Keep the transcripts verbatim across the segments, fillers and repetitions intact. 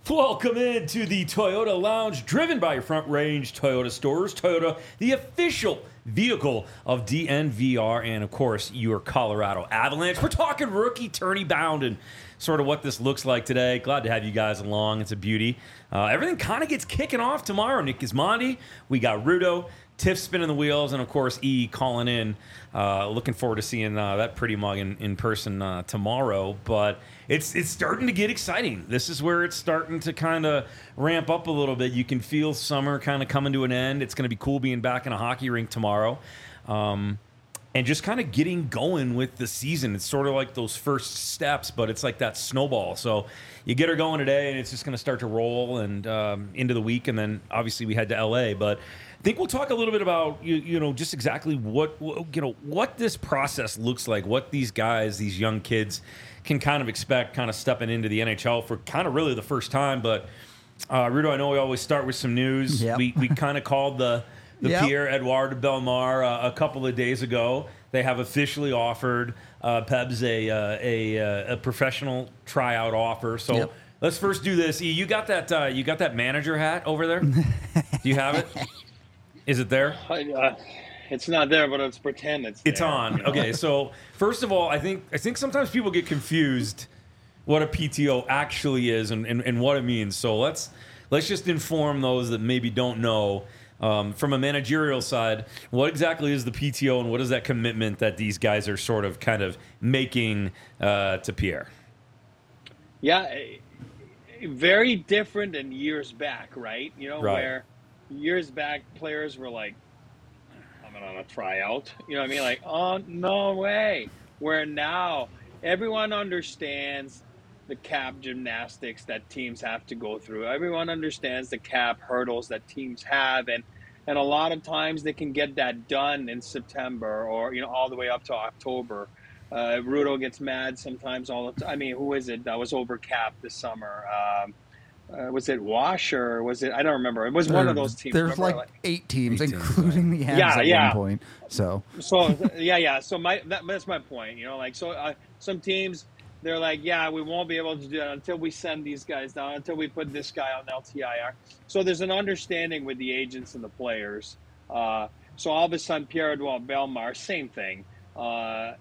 Welcome into the Toyota Lounge, driven by your Front Range Toyota stores. Toyota, the official vehicle of D N V R, and of course, your Colorado Avalanche. We're talking rookie tourney bound and sort of what this looks like today. Glad to have you guys along. It's a beauty. Uh, everything kind of gets kicking off tomorrow. Nick Gismondi, we got Rudo, Tiff spinning the wheels, and of course E calling in. Uh, looking forward to seeing uh, that pretty mug in, in person uh, tomorrow. But it's it's starting to get exciting. This is where it's starting to kind of ramp up a little bit. You can feel summer kind of coming to an end. It's going to be cool being back in a hockey rink tomorrow. Um, and just kind of getting going with the season. It's sort of like those first steps, but it's like that snowball. So you get her going today, and it's just going to start to roll and um, into the week. And then obviously we head to L A. But I think we'll talk a little bit about you, you know just exactly what you know what this process looks like, what these guys, these young kids, can kind of expect, kind of stepping into the N H L for kind of really the first time. But uh, Rudo, I know we always start with some news. Yep. We we kind of called the the Yep. Pierre-Edouard Bellemare uh, a couple of days ago. They have officially offered uh, Pebs a, uh, a a professional tryout offer. So. Yep. Let's first do this. E, you got that? Uh, you got that manager hat over there? Do you have it? Is it there? Uh, it's not there, but it's pretend it's It's there, on. you know? Okay, so first of all, I think I think sometimes people get confused what a P T O actually is and, and, and what it means. So let's let's just inform those that maybe don't know. Um, from a managerial side, what exactly is the P T O and what is that commitment that these guys are sort of kind of making uh, to Pierre? Yeah, eh, very different than years back, right? You know, Right. where years back players were like, I'm on a tryout. You know what I mean? Like, oh, no way. Where now everyone understands the cap gymnastics that teams have to go through. Everyone understands the cap hurdles that teams have. And, and a lot of times they can get that done in September or, you know, all the way up to October. Uh, Rudo gets mad sometimes all the time. I mean, who is it that was over cap this summer? Um, uh, was it Wash or was it? I don't remember. It was one of those teams. There's remember? like eight teams, Eight teams, including the Habs Yeah, at yeah. one point. So So yeah, yeah. So my that, that's my point. You know, like so uh, some teams they're like, yeah, we won't be able to do that until we send these guys down, until we put this guy on L T I R. So there's an understanding with the agents and the players. Uh, so all of a sudden, Pierre-Edouard Bellemare, same thing. Uh,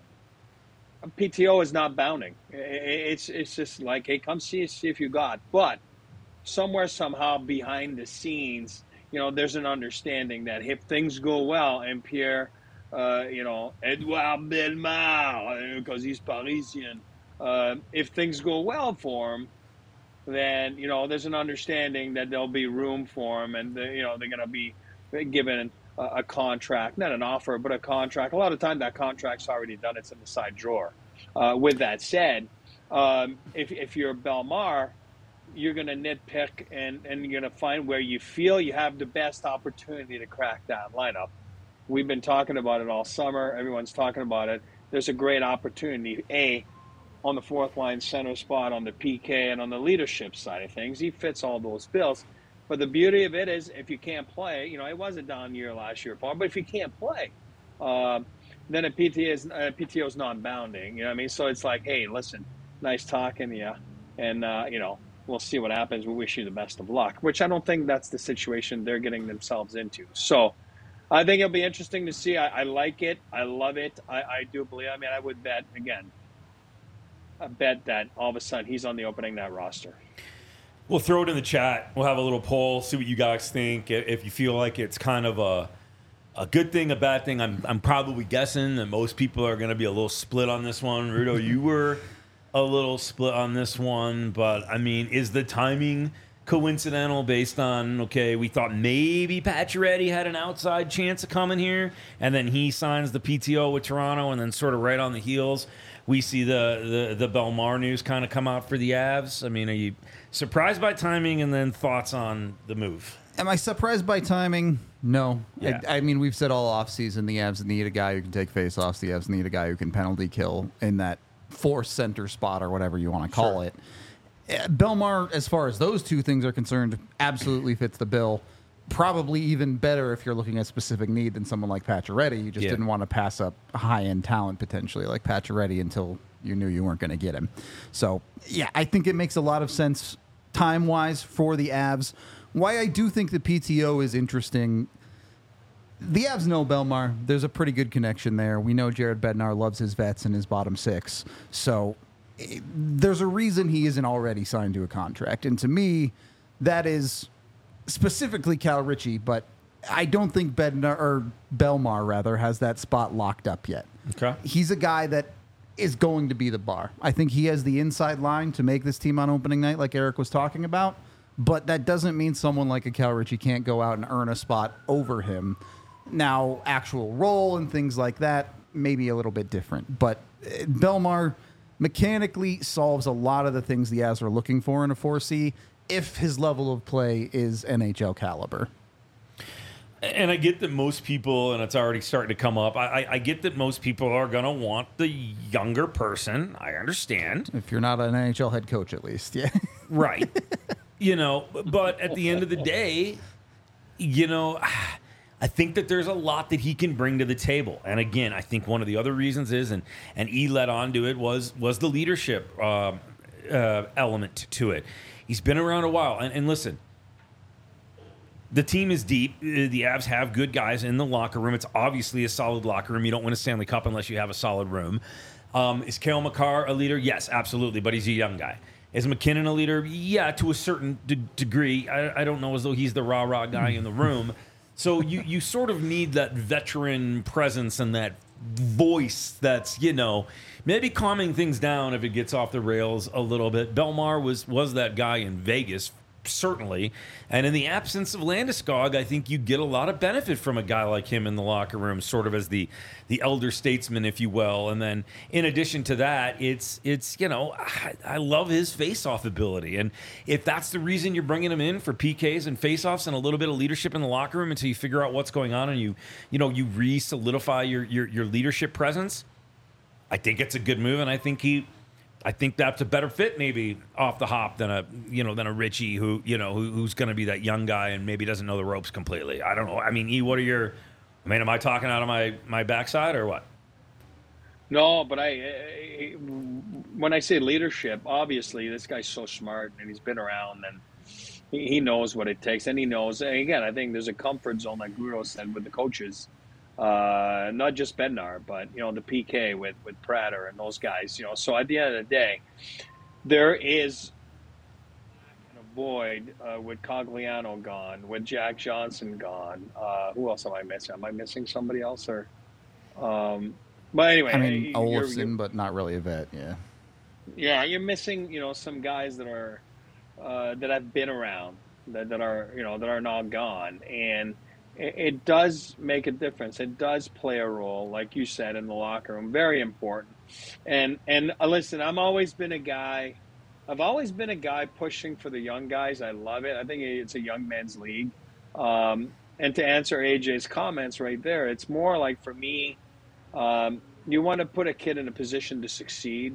P T O is not bounding. It's it's just like, hey, come see see if you got. But somewhere, somehow, behind the scenes, you know, there's an understanding that if things go well, and Pierre, uh, you know, Edouard Bellemare, because he's Parisian, uh, if things go well for him, then you know, there's an understanding that there'll be room for him, and you know, they're going to be given a, a contract, not an offer, but a contract. A lot of time, that contract's already done; it's in the side drawer. Uh, with that said, um, if if you're Bellemare, you're going to nitpick and, and you're going to find where you feel you have the best opportunity to crack that lineup. We've been talking about it all summer. Everyone's talking about it. There's a great opportunity, A, on the fourth line center spot, on the P K, and on the leadership side of things. He fits all those bills. But the beauty of it is if you can't play, you know, it was a down year last year, Paul, but if you can't play, uh, then a P T O is, uh, P T O is non-bounding. You know what I mean? So it's like, hey, listen, nice talking to you. And, uh, you know, we'll see what happens. We wish you the best of luck, which I don't think that's the situation they're getting themselves into. So I think it'll be interesting to see. I, I like it. I love it. I, I do believe. I mean, I would bet, again, I bet that all of a sudden he's on the opening night roster. We'll throw it in the chat. We'll have a little poll, see what you guys think. If you feel like it's kind of a a good thing, a bad thing, I'm I'm probably guessing that most people are going to be a little split on this one. Rudo, you were a little split on this one, but I mean, is the timing coincidental based on, okay, we thought maybe Pacioretty had an outside chance of coming here, and then he signs the P T O with Toronto, and then sort of right on the heels, we see the, the, the Bellemare news kind of come out for the Avs. I mean, are you surprised by timing, and then thoughts on the move? am I surprised by timing? No. Yeah. I, I mean, we've said all offseason the Avs need a guy who can take faceoffs. The Avs need a guy who can penalty kill in that fourth center spot or whatever you want to call Sure. it. Uh, Bellemare, as far as those two things are concerned, absolutely fits the bill. Probably even better if you're looking at specific need than someone like Pacioretty. You just Yeah. didn't want to pass up high-end talent potentially like Pacioretty until you knew you weren't going to get him. So, yeah, I think it makes a lot of sense time-wise for the Avs. Why I do think the P T O is interesting, the Avs know Belmar. There's a pretty good connection there. We know Jared Bednar loves his vets and his bottom six. So it, there's a reason he isn't already signed to a contract. And to me, that is specifically Cal Ritchie, but I don't think Bednar, or Belmar rather, has that spot locked up yet. Okay. He's a guy that is going to be the bar. I think he has the inside line to make this team on opening night, like Eric was talking about. But that doesn't mean someone like a Cal Ritchie can't go out and earn a spot over him. Now, actual role and things like that may be a little bit different. But uh, Belmar mechanically solves a lot of the things the Avs are looking for in a four C if his level of play is N H L caliber. And I get that most people, and it's already starting to come up, I, I, I get that most people are going to want the younger person. I understand. If you're not an N H L head coach, at least. Yeah. Right. You know, but at the end of the day, you know, I think that there's a lot that he can bring to the table. And again, I think one of the other reasons is, and and E led on to it, was was the leadership uh, uh, element to it. He's been around a while. And, and listen, the team is deep. The Avs have good guys in the locker room. It's obviously a solid locker room. You don't win a Stanley Cup unless you have a solid room. Um, is Cale Makar a leader? Yes, absolutely, but he's a young guy. Is McKinnon a leader? Yeah, to a certain de- degree. I, I don't know as though he's the rah-rah guy in the room. So you, you sort of need that veteran presence and that voice that's, you know, maybe calming things down if it gets off the rails a little bit. Belmar was was that guy in Vegas, certainly. And in the absence of Landeskog, I think you get a lot of benefit from a guy like him in the locker room, sort of as the the elder statesman, if you will. And then in addition to that, it's, it's you know, I, I love his face-off ability. And if that's the reason you're bringing him in for P Ks and face-offs and a little bit of leadership in the locker room until you figure out what's going on and you, you know, you re-solidify your, your, your leadership presence, I think it's a good move. And I think he... I think that's a better fit, maybe off the hop than a you know than a Ritchie who you know who, who's going to be that young guy and maybe doesn't know the ropes completely. I don't know. I mean, E, what are your? I mean, am I talking out of my my backside or what? No, but I, I when I say leadership, obviously this guy's so smart and he's been around and he, he knows what it takes and he knows. And again, I think there's a comfort zone, like Grudo said, with the coaches. Uh, not just Bednar, but, you know, the P K with, with Prater and those guys, you know. So at the end of the day, there is a void uh, with Cogliano gone, with Jack Johnson gone. Uh, who else am I missing? Am I missing somebody else? Or, um, but anyway. I mean, you're, Olofsson, you're, but not really a vet, yeah. Yeah, you're missing, you know, some guys that are, uh, that have been around, that, that are, you know, that are now gone. And, it does make a difference. It does play a role, like you said, in the locker room. Very important. And and uh, listen, I've always been a guy. I've always been a guy pushing for the young guys. I love it. I think it's a young men's league. Um, and to answer A J's comments right there, it's more like for me, um, you want to put a kid in a position to succeed.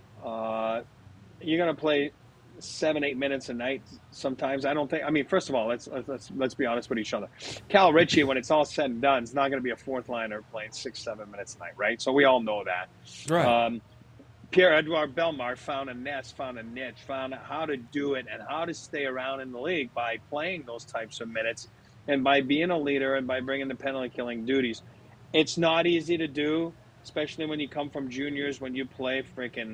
Uh, you're going to play seven, eight minutes a night sometimes. I don't think, I mean, first of all, let's let's let's be honest with each other. Cal Ritchie, when it's all said and done, is not going to be a fourth liner playing six, seven minutes a night, right? So we all know that. Right. Um, Pierre-Edouard Belmar found a nest, found a niche, found how to do it and how to stay around in the league by playing those types of minutes and by being a leader and by bringing the penalty killing duties. It's not easy to do, especially when you come from juniors, when you play freaking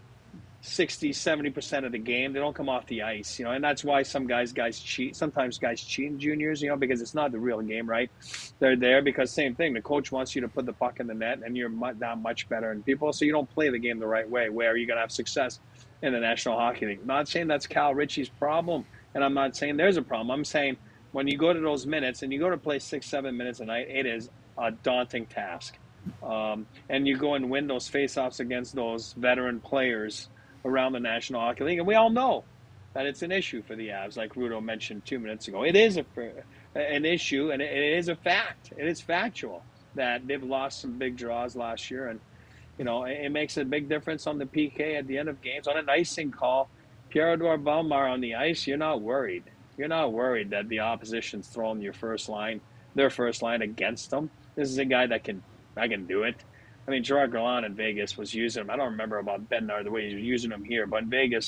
sixty, seventy percent of the game. They don't come off the ice, you know, and that's why some guys guys cheat. Sometimes guys cheat in juniors, you know, because it's not the real game, right? They're there because same thing. The coach wants you to put the puck in the net and you're not much better than people, so you don't play the game the right way where you're going to have success in the National Hockey League. I'm not saying that's Cal Ritchie's problem, and I'm not saying there's a problem. I'm saying when you go to those minutes and you go to play six, seven minutes a night, it is a daunting task. Um, and you go and win those faceoffs against those veteran players around the National Hockey League. And we all know that it's an issue for the Avs, like Rudo mentioned two minutes ago. It is a, an issue, and it is a fact. It is factual that they've lost some big draws last year. And, you know, it makes a big difference on the P K at the end of games. On an icing call, Pierre-Edouard Belmar on the ice, you're not worried. You're not worried that the opposition's throwing your first line, their first line against them. This is a guy that can, I can do it. I mean, Gerard Gallant in Vegas was using him. I don't remember about Bednar the way he was using him here, but in Vegas,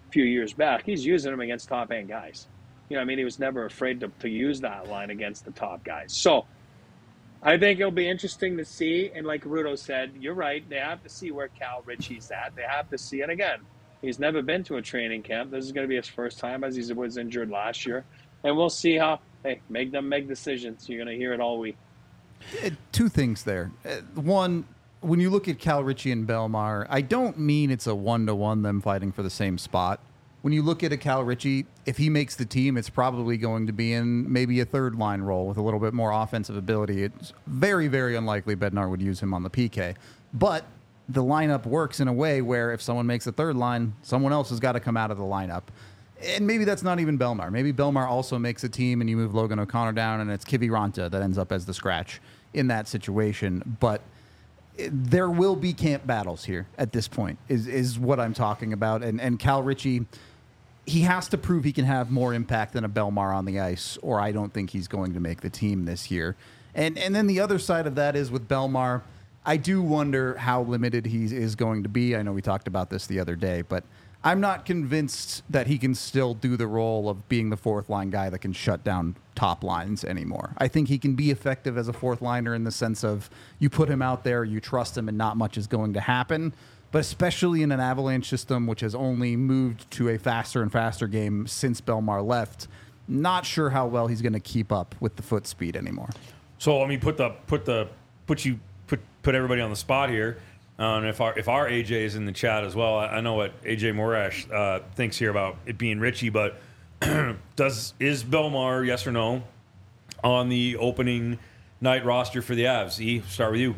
few years back, he's using them against top end guys. You know, I mean, he was never afraid to, to use that line against the top guys. So I think it'll be interesting to see. And like Rudo said, you're right. They have to see where Cal Ritchie's at. They have to see. And again, he's never been to a training camp. This is going to be his first time, as he was injured last year. And we'll see how, hey, make them make decisions. You're going to hear it all week. Uh, Two things there. Uh, One, when you look at Cal Ritchie and Belmar, I don't mean it's a one-to-one them fighting for the same spot. When you look at a Cal Ritchie, if he makes the team, it's probably going to be in maybe a third line role with a little bit more offensive ability. It's very, very unlikely Bednar would use him on the P K. But the lineup works in a way where if someone makes a third line, someone else has got to come out of the lineup. And maybe that's not even Belmar. Maybe Belmar also makes a team and you move Logan O'Connor down and it's Kiviranta that ends up as the scratch in that situation. But there will be camp battles here at this point is, is what I'm talking about. And, and Cal Ritchie, he has to prove he can have more impact than a Belmar on the ice, or I don't think he's going to make the team this year. And and then the other side of that is with Belmar, I do wonder how limited he is going to be. I know we talked about this the other day, but I'm not convinced that he can still do the role of being the fourth line guy that can shut down top lines anymore. I think he can be effective as a fourth liner in the sense of you put him out there, you trust him, and not much is going to happen. But especially in an Avalanche system, which has only moved to a faster and faster game since Belmar left, not sure how well he's going to keep up with the foot speed anymore. So let me put the put the put you put put everybody on the spot here. Um, if our if our A J is in the chat as well, I, I know what A J Morash uh, thinks here about it being Ritchie, but does is Belmar, yes or no, on the opening night roster for the Avs? E, start with you.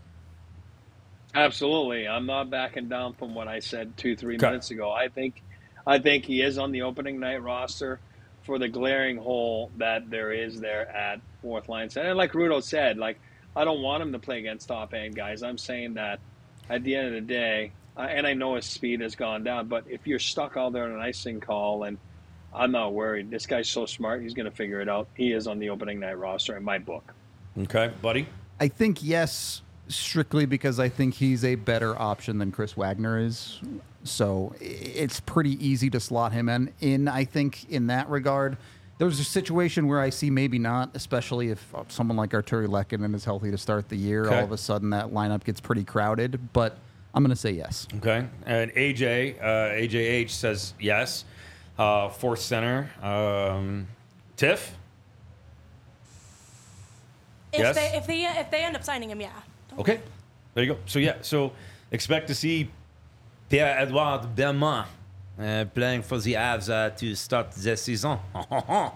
Absolutely. I'm not backing down from what I said two, three Okay. minutes ago. I think I think he is on the opening night roster for the glaring hole that there is there at fourth line center. And like Rudo said, like I don't want him to play against top end guys. I'm saying that at the end of the day, uh, and I know his speed has gone down, but if you're stuck out there in an icing call, and I'm not worried. This guy's so smart. He's going to figure it out. He is on the opening night roster in my book. Okay, buddy. I think yes, strictly because I think he's a better option than Chris Wagner is. So i- it's pretty easy to slot him in, in, I think, in that regard. There's a situation where I see maybe not, especially if uh, someone like Arturi Lehkonen is healthy to start the year. Okay. All of a sudden, that lineup gets pretty crowded. But I'm going to say yes. Okay, and A J uh, A J H says yes. Uh, fourth center, um, Tiff. If Yes? they if they if they end up signing him, yeah. Okay, there you go. So yeah, so expect to see Pierre-Edouard Belmont uh, playing for the Avs uh, to start the season. uh,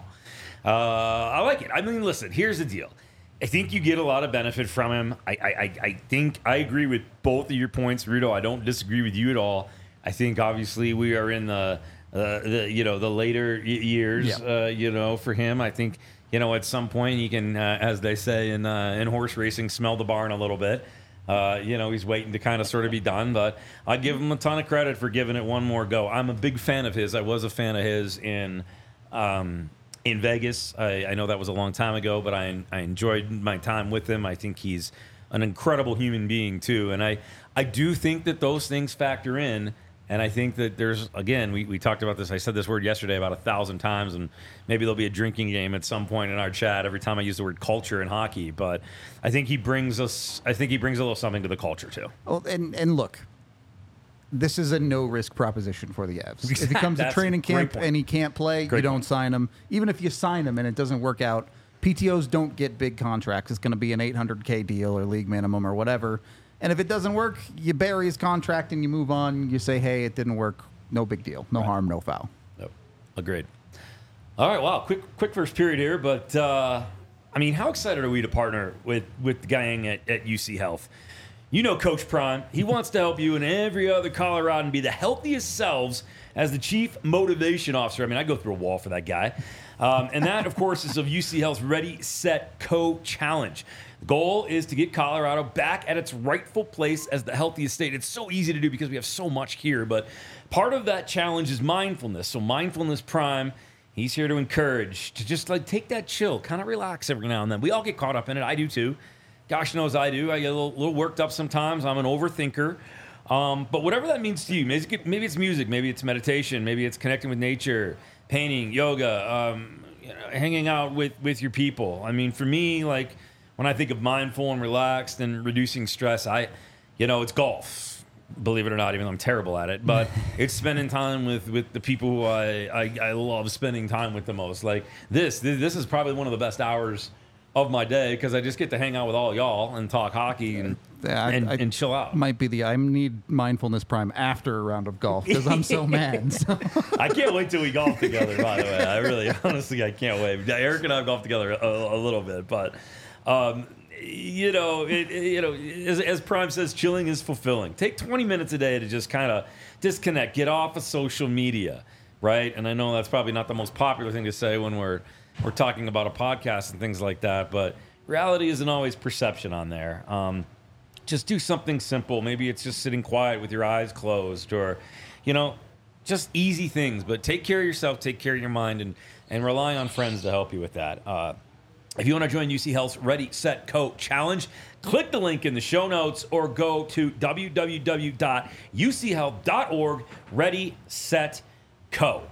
I like it. I mean, listen, here's the deal. I think you get a lot of benefit from him. I, I, I, I think I agree with both of your points, Rudo. I don't disagree with you at all. I think obviously we are in the, uh, the you know, the later y- years, Yeah. uh, you know, for him. I think, you know, at some point he can, uh, as they say in uh, in horse racing, smell the barn a little bit. Uh, you know, he's waiting to kind of sort of be done, but I give him a ton of credit for giving it one more go. I'm a big fan of his. I was a fan of his in um, in Vegas. I, I know that was a long time ago, but I I enjoyed my time with him. I think he's an incredible human being too, and I I do think that those things factor in. And I think that there's, again, we, we talked about this. I said this word yesterday about a thousand times, and maybe there'll be a drinking game at some point in our chat every time I use the word culture in hockey. But I think he brings us, I think he brings a little something to the culture too. Well, and and look, this is a no risk proposition for the Avs. If he comes to That's training a great camp point. and he can't play, Great you don't point. sign him. Even if you sign him and it doesn't work out, P T Os don't get big contracts. It's going to be an eight hundred K deal or league minimum or whatever. And if it doesn't work, you bury his contract and you move on. You say, hey, it didn't work. No big deal. No harm, no foul. Yep. Agreed. All right, wow, quick quick first period here, but uh, I mean, how excited are we to partner with with the gang at, at U C Health? You know Coach Prime. He wants to help you and every other Coloradan be the healthiest selves as the chief motivation officer. I mean, I go through a wall for that guy. Um, and that, of course, is of U C Health's Ready, Set, Co challenge. The goal is to get Colorado back at its rightful place as the healthiest state. It's so easy to do because we have so much here, but part of that challenge is mindfulness. So Mindfulness Prime, he's here to encourage, to just like take that chill, kind of relax every now and then. We all get caught up in it. I do too. Gosh knows I do. I get a little, little worked up sometimes. I'm an overthinker. Um, but whatever that means to you, maybe it's, maybe it's music, maybe it's meditation, maybe it's connecting with nature, painting, yoga, um, you know, hanging out with, with your people. I mean, for me, like when I think of mindful and relaxed and reducing stress, I, you know, it's golf. Believe it or not, even though I'm terrible at it, but it's spending time with, with the people who I, I, I love spending time with the most. Like this, this, this is probably one of the best hours of my day because I just get to hang out with all y'all and talk hockey and Yeah, I- and, I- and chill out. Might be the I need mindfulness prime after a round of golf because I'm so mad. So. I can't wait till we golf together. By the way, I really, honestly, I can't wait. Eric and I have golfed together a, a little bit, but um, you know, it, it- you know, as, as Prime says, chilling is fulfilling. Take twenty minutes a day to just kind of disconnect, get off of social media, right? And I know that's probably not the most popular thing to say when we're we're talking about a podcast and things like that, but reality isn't always perception on there. Um, just do something simple. Maybe it's just sitting quiet with your eyes closed, or, you know, just easy things. But take care of yourself, take care of your mind, and and rely on friends to help you with that. Uh, if you want to join U C Health's Ready, Set, Co challenge, click the link in the show notes or go to w w w dot u c health dot org. Ready, Set, Co.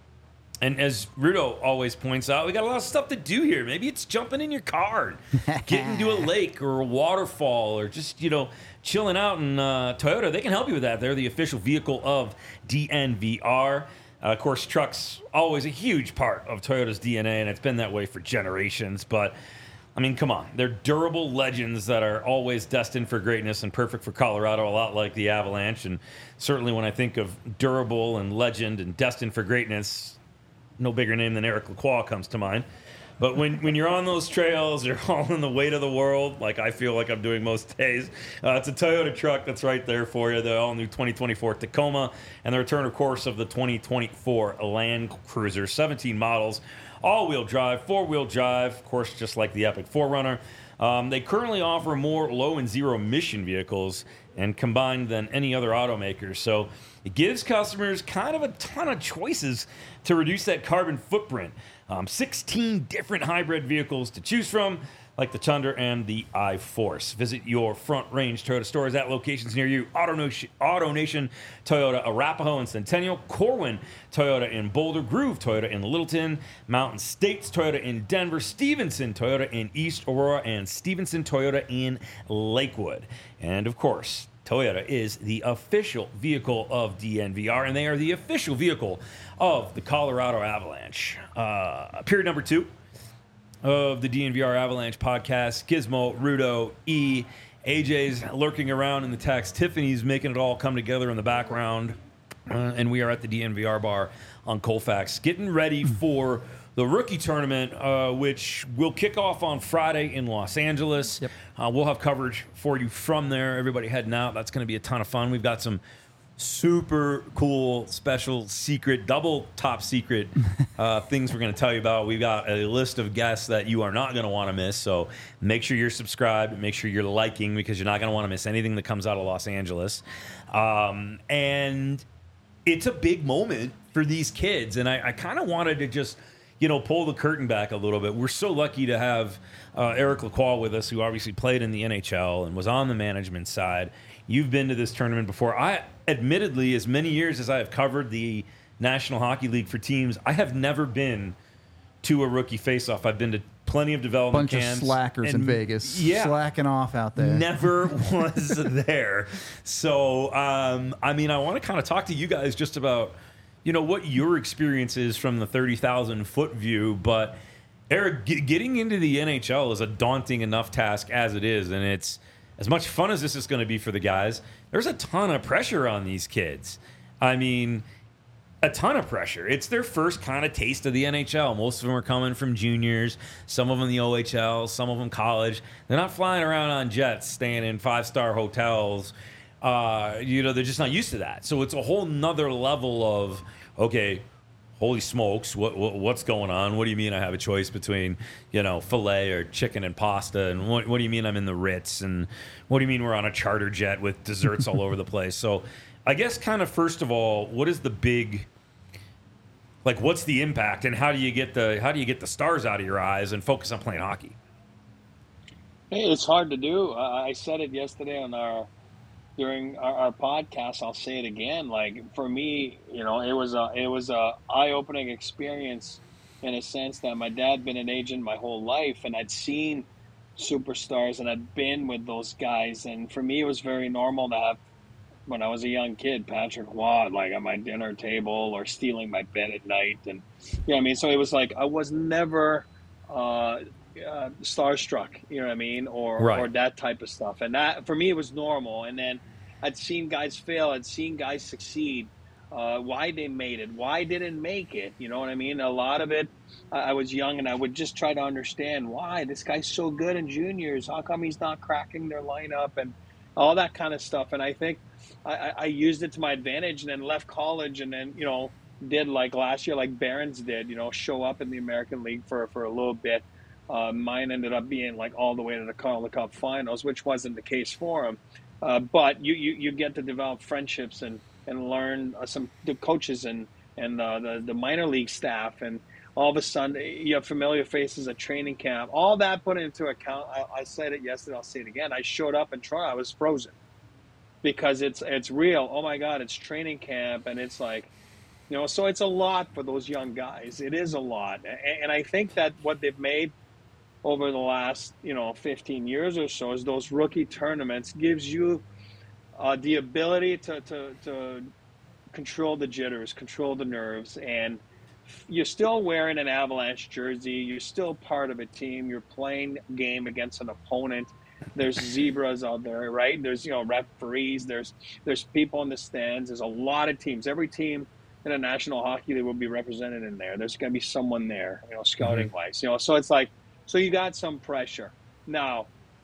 And as Rudo always points out, we got a lot of stuff to do here. Maybe it's jumping in your car, and getting to a lake or a waterfall, or just, you know, chilling out in uh, Toyota. They can help you with that. They're the official vehicle of D N V R. Uh, of course, trucks always a huge part of Toyota's D N A, and it's been that way for generations. But, I mean, come on. They're durable legends that are always destined for greatness and perfect for Colorado, a lot like the Avalanche. And certainly when I think of durable and legend and destined for greatness, no bigger name than Eric Lacroix comes to mind. But when, when you're on those trails, you're hauling the weight of the world, like I feel like I'm doing most days. Uh, it's a Toyota truck that's right there for you, the all-new twenty twenty-four Tacoma, and the return, of course, of the twenty twenty-four Land Cruiser. seventeen models, all-wheel drive, four-wheel drive, of course, just like the Epic four runner. Um, they currently offer more low and zero emission vehicles and combined than any other automaker. So it gives customers kind of a ton of choices to reduce that carbon footprint. Um, sixteen different hybrid vehicles to choose from, like the Tundra and the iForce. Visit your Front Range Toyota stores at locations near you. Auto Nation, Auto Nation Toyota, Arapahoe and Centennial, Corwin Toyota in Boulder, Groove Toyota in Littleton, Mountain States Toyota in Denver, Stevenson Toyota in East Aurora, and Stevenson Toyota in Lakewood. And of course, Toyota is the official vehicle of D N V R, and they are the official vehicle of the Colorado Avalanche. Uh, period number two of the D N V R Avalanche podcast. Gizmo, Rudo, E, A J's lurking around in the text. Tiffany's making it all come together in the background. Uh, and we are at the D N V R bar on Colfax, getting ready for the rookie tournament, uh, which will kick off on Friday in Los Angeles. Yep. Uh, we'll have coverage for you from there. Everybody heading out. That's going to be a ton of fun. We've got some super cool, special, secret, double top secret uh, things we're going to tell you about. We've got a list of guests that you are not going to want to miss. So make sure you're subscribed. Make sure you're liking, because you're not going to want to miss anything that comes out of Los Angeles. Um, and it's a big moment for these kids. And I, I kind of wanted to just, you know, pull the curtain back a little bit. We're so lucky to have uh, Eric Lacroix with us, who obviously played in the N H L and was on the management side. You've been to this tournament before. I, admittedly, as many years as I have covered the National Hockey League for teams, I have never been to a rookie face-off. I've been to plenty of development Bunch camps. of slackers in and- Vegas, Yeah. slacking off out there. Never was there. So, um, I mean, I want to kind of talk to you guys just about, you know, what your experience is from the thirty thousand foot view. But, Eric, g- getting into the N H L is a daunting enough task as it is. And it's, as much fun as this is going to be for the guys, there's a ton of pressure on these kids. I mean, a ton of pressure. It's their first kind of taste of the N H L. Most of them are coming from juniors, some of them the O H L, some of them college. They're not flying around on jets, staying in five-star hotels. Uh, you know, they're just not used to that. So it's a whole nother level of, okay, holy smokes, what, what what's going on? What do you mean I have a choice between, you know, filet or chicken and pasta? And what, what do you mean I'm in the Ritz? And what do you mean we're on a charter jet with desserts all over the place? So I guess kind of first of all, what is the big, like, what's the impact, and how do you get the how do you get the stars out of your eyes and focus on playing hockey? Hey, it's hard to do. Uh, I said it yesterday on our during our, our podcast. I'll say it again. Like for me, you know, it was a it was a eye opening experience in a sense that my dad been an agent my whole life, and I'd seen superstars and I'd been with those guys, and for me it was very normal to have, when I was a young kid, Patrick Waugh like at my dinner table or stealing my bed at night, and you know what I mean. So it was like I was never uh, uh, starstruck, you know what I mean, or Right. or that type of stuff. And that for me it was normal. And then I'd seen guys fail, I'd seen guys succeed, uh, why they made it, why didn't make it. You know what I mean? A lot of it, I, I was young and I would just try to understand why this guy's so good in juniors. How come he's not cracking their lineup and all that kind of stuff. And I think I, I used it to my advantage, and then left college, and then, you know, did like last year, like Barons did, you know, show up in the American League for, for a little bit. Uh, mine ended up being like all the way to the Calder Cup finals, which wasn't the case for him. Uh, but you, you, you get to develop friendships and, and learn uh, some the coaches and, and uh, the, the minor league staff. And all of a sudden you have familiar faces at training camp. All that put into account. I, I said it yesterday, I'll say it again. I showed up in Toronto, I was frozen. Because it's it's real. Oh my God, it's training camp, and it's like, you know, so it's a lot for those young guys. It is a lot, and, and I think that what they've made over the last, you know, fifteen years or so is those rookie tournaments gives you uh, the ability to, to to control the jitters, control the nerves, and you're still wearing an Avalanche jersey. You're still part of a team. You're playing a game against an opponent. There's zebras out there, right? There's, you know, referees. There's there's people in the stands. There's a lot of teams. Every team in a National Hockey League will be represented in there. There's going to be someone there, you know, scouting wise. Mm-hmm. You know, so it's like, so you got some pressure. Now,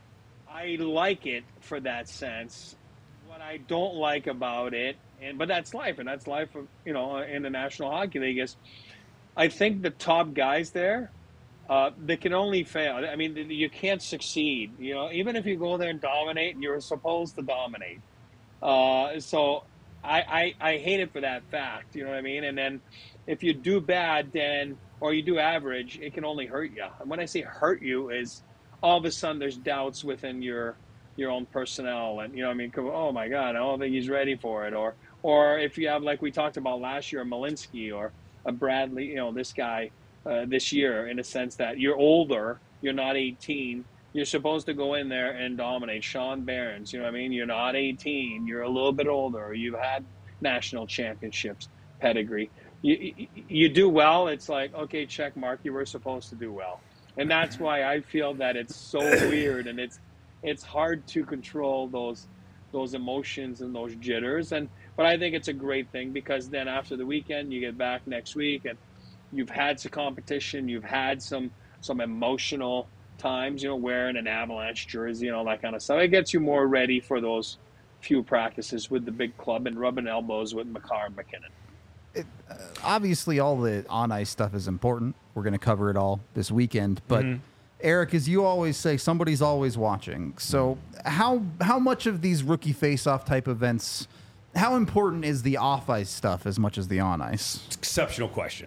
I like it for that sense. What I don't like about it, and but that's life, and that's life of, you know, in the National Hockey League, is I think the top guys there, Uh, they can only fail. I mean, you can't succeed. You know, even if you go there and dominate, you're supposed to dominate. Uh, so I, I I hate it for that fact. You know what I mean? And then if you do bad, then or you do average, it can only hurt you. And when I say hurt you, is all of a sudden there's doubts within your your own personnel, and you know what I mean. Oh my God, I don't think he's ready for it. Or or if you have, like we talked about last year, a Malinsky or a Bradley. You know, this guy. Uh, this year, in a sense that you're older, you're not eighteen, you're supposed to go in there and dominate. Sean Barons, you know what I mean? You're not eighteen, you're a little bit older, you've had national championships, pedigree. You, you, you do well, it's like, okay, check mark, you were supposed to do well. And that's why I feel that it's so weird, and it's it's hard to control those those emotions and those jitters. And but I think it's a great thing, because then after the weekend, you get back next week, and you've had some competition, you've had some some emotional times, you know, wearing an Avalanche jersey and all that kind of stuff. It gets you more ready for those few practices with the big club and rubbing elbows with Makar and McKinnon. It, uh, obviously, all the on-ice stuff is important. We're going to cover it all this weekend. But, mm-hmm. Eric, as you always say, somebody's always watching. So how how much of these rookie face-off type events, how important is the off-ice stuff as much as the on-ice? Exceptional question.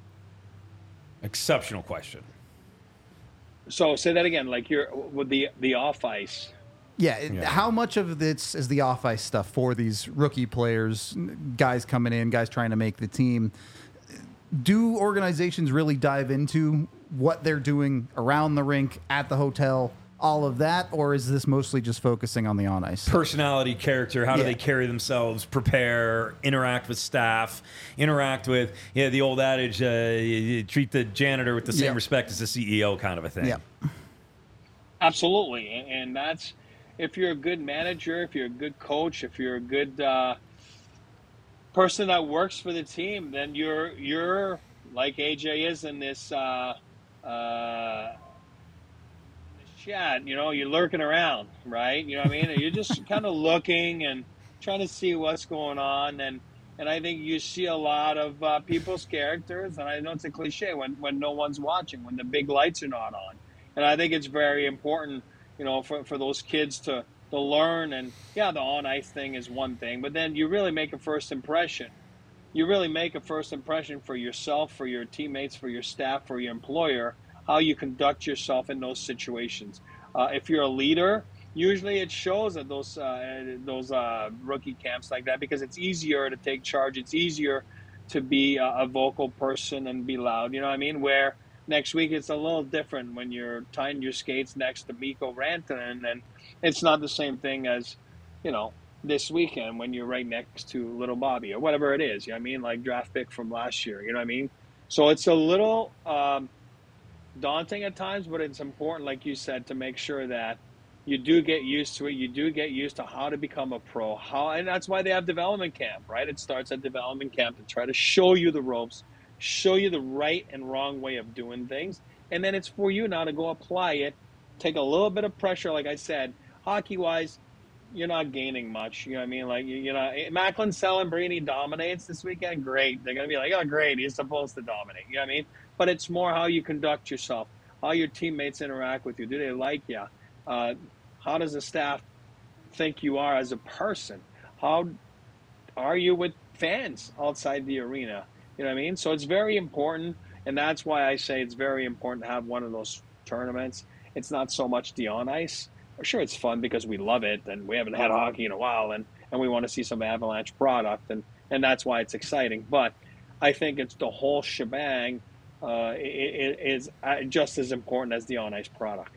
Exceptional question. So say that again, like you're with the the off ice. Yeah, yeah. How much of this is the off ice stuff for these rookie players, guys coming in, guys trying to make the team? Do organizations really dive into what they're doing around the rink, at the hotel, all of that, or is this mostly just focusing on the on ice? Personality, character, how do Yeah. they carry themselves, prepare, interact with staff, interact with, yeah, the old adage, uh, you, you treat the janitor with the same Yeah. respect as the C E O kind of a thing. Yeah. Absolutely. And, and that's, if you're a good manager, if you're a good coach, if you're a good uh, person that works for the team, then you're, you're like A J is in this, uh, uh, chat, you know, you're lurking around, right? You know what I mean? You're just kind of looking and trying to see what's going on. And, and I think you see a lot of uh, people's characters. And I know it's a cliche when, when no one's watching, when the big lights are not on. And I think it's very important, you know, for, for those kids to, to learn. And yeah, the on ice thing is one thing, but then you really make a first impression. You really make a first impression for yourself, for your teammates, for your staff, for your employer, how you conduct yourself in those situations. Uh, if you're a leader, usually it shows at those uh, those uh, rookie camps like that because it's easier to take charge. It's easier to be a, a vocal person and be loud. You know what I mean? Where next week it's a little different when you're tying your skates next to Mikko Rantanen, and it's not the same thing as, you know, this weekend when you're right next to little Bobby or whatever it is. You know what I mean? Like draft pick from last year. You know what I mean? So it's a little um, daunting at times, but it's important, like you said, to make sure that you do get used to it. You do get used to how to become a pro. How, and that's why they have development camp, right? It starts at development camp to try to show you the ropes, show you the right and wrong way of doing things. And then it's for you now to go apply it, take a little bit of pressure. Like I said, hockey-wise, you're not gaining much. You know what I mean? Like, you, you know, Macklin Celebrini dominates this weekend. Great. They're going to be like, oh, great. He's supposed to dominate. You know what I mean? But it's more how you conduct yourself, how your teammates interact with you. Do they like you? Uh, how does the staff think you are as a person? How are you with fans outside the arena? You know what I mean? So it's very important, and that's why I say it's very important to have one of those tournaments. It's not so much the on ice. Sure, it's fun because we love it, and we haven't had hockey in a while, and, and we want to see some Avalanche product, and, and that's why it's exciting. But I think it's the whole shebang uh, it, it is just as important as the on ice product.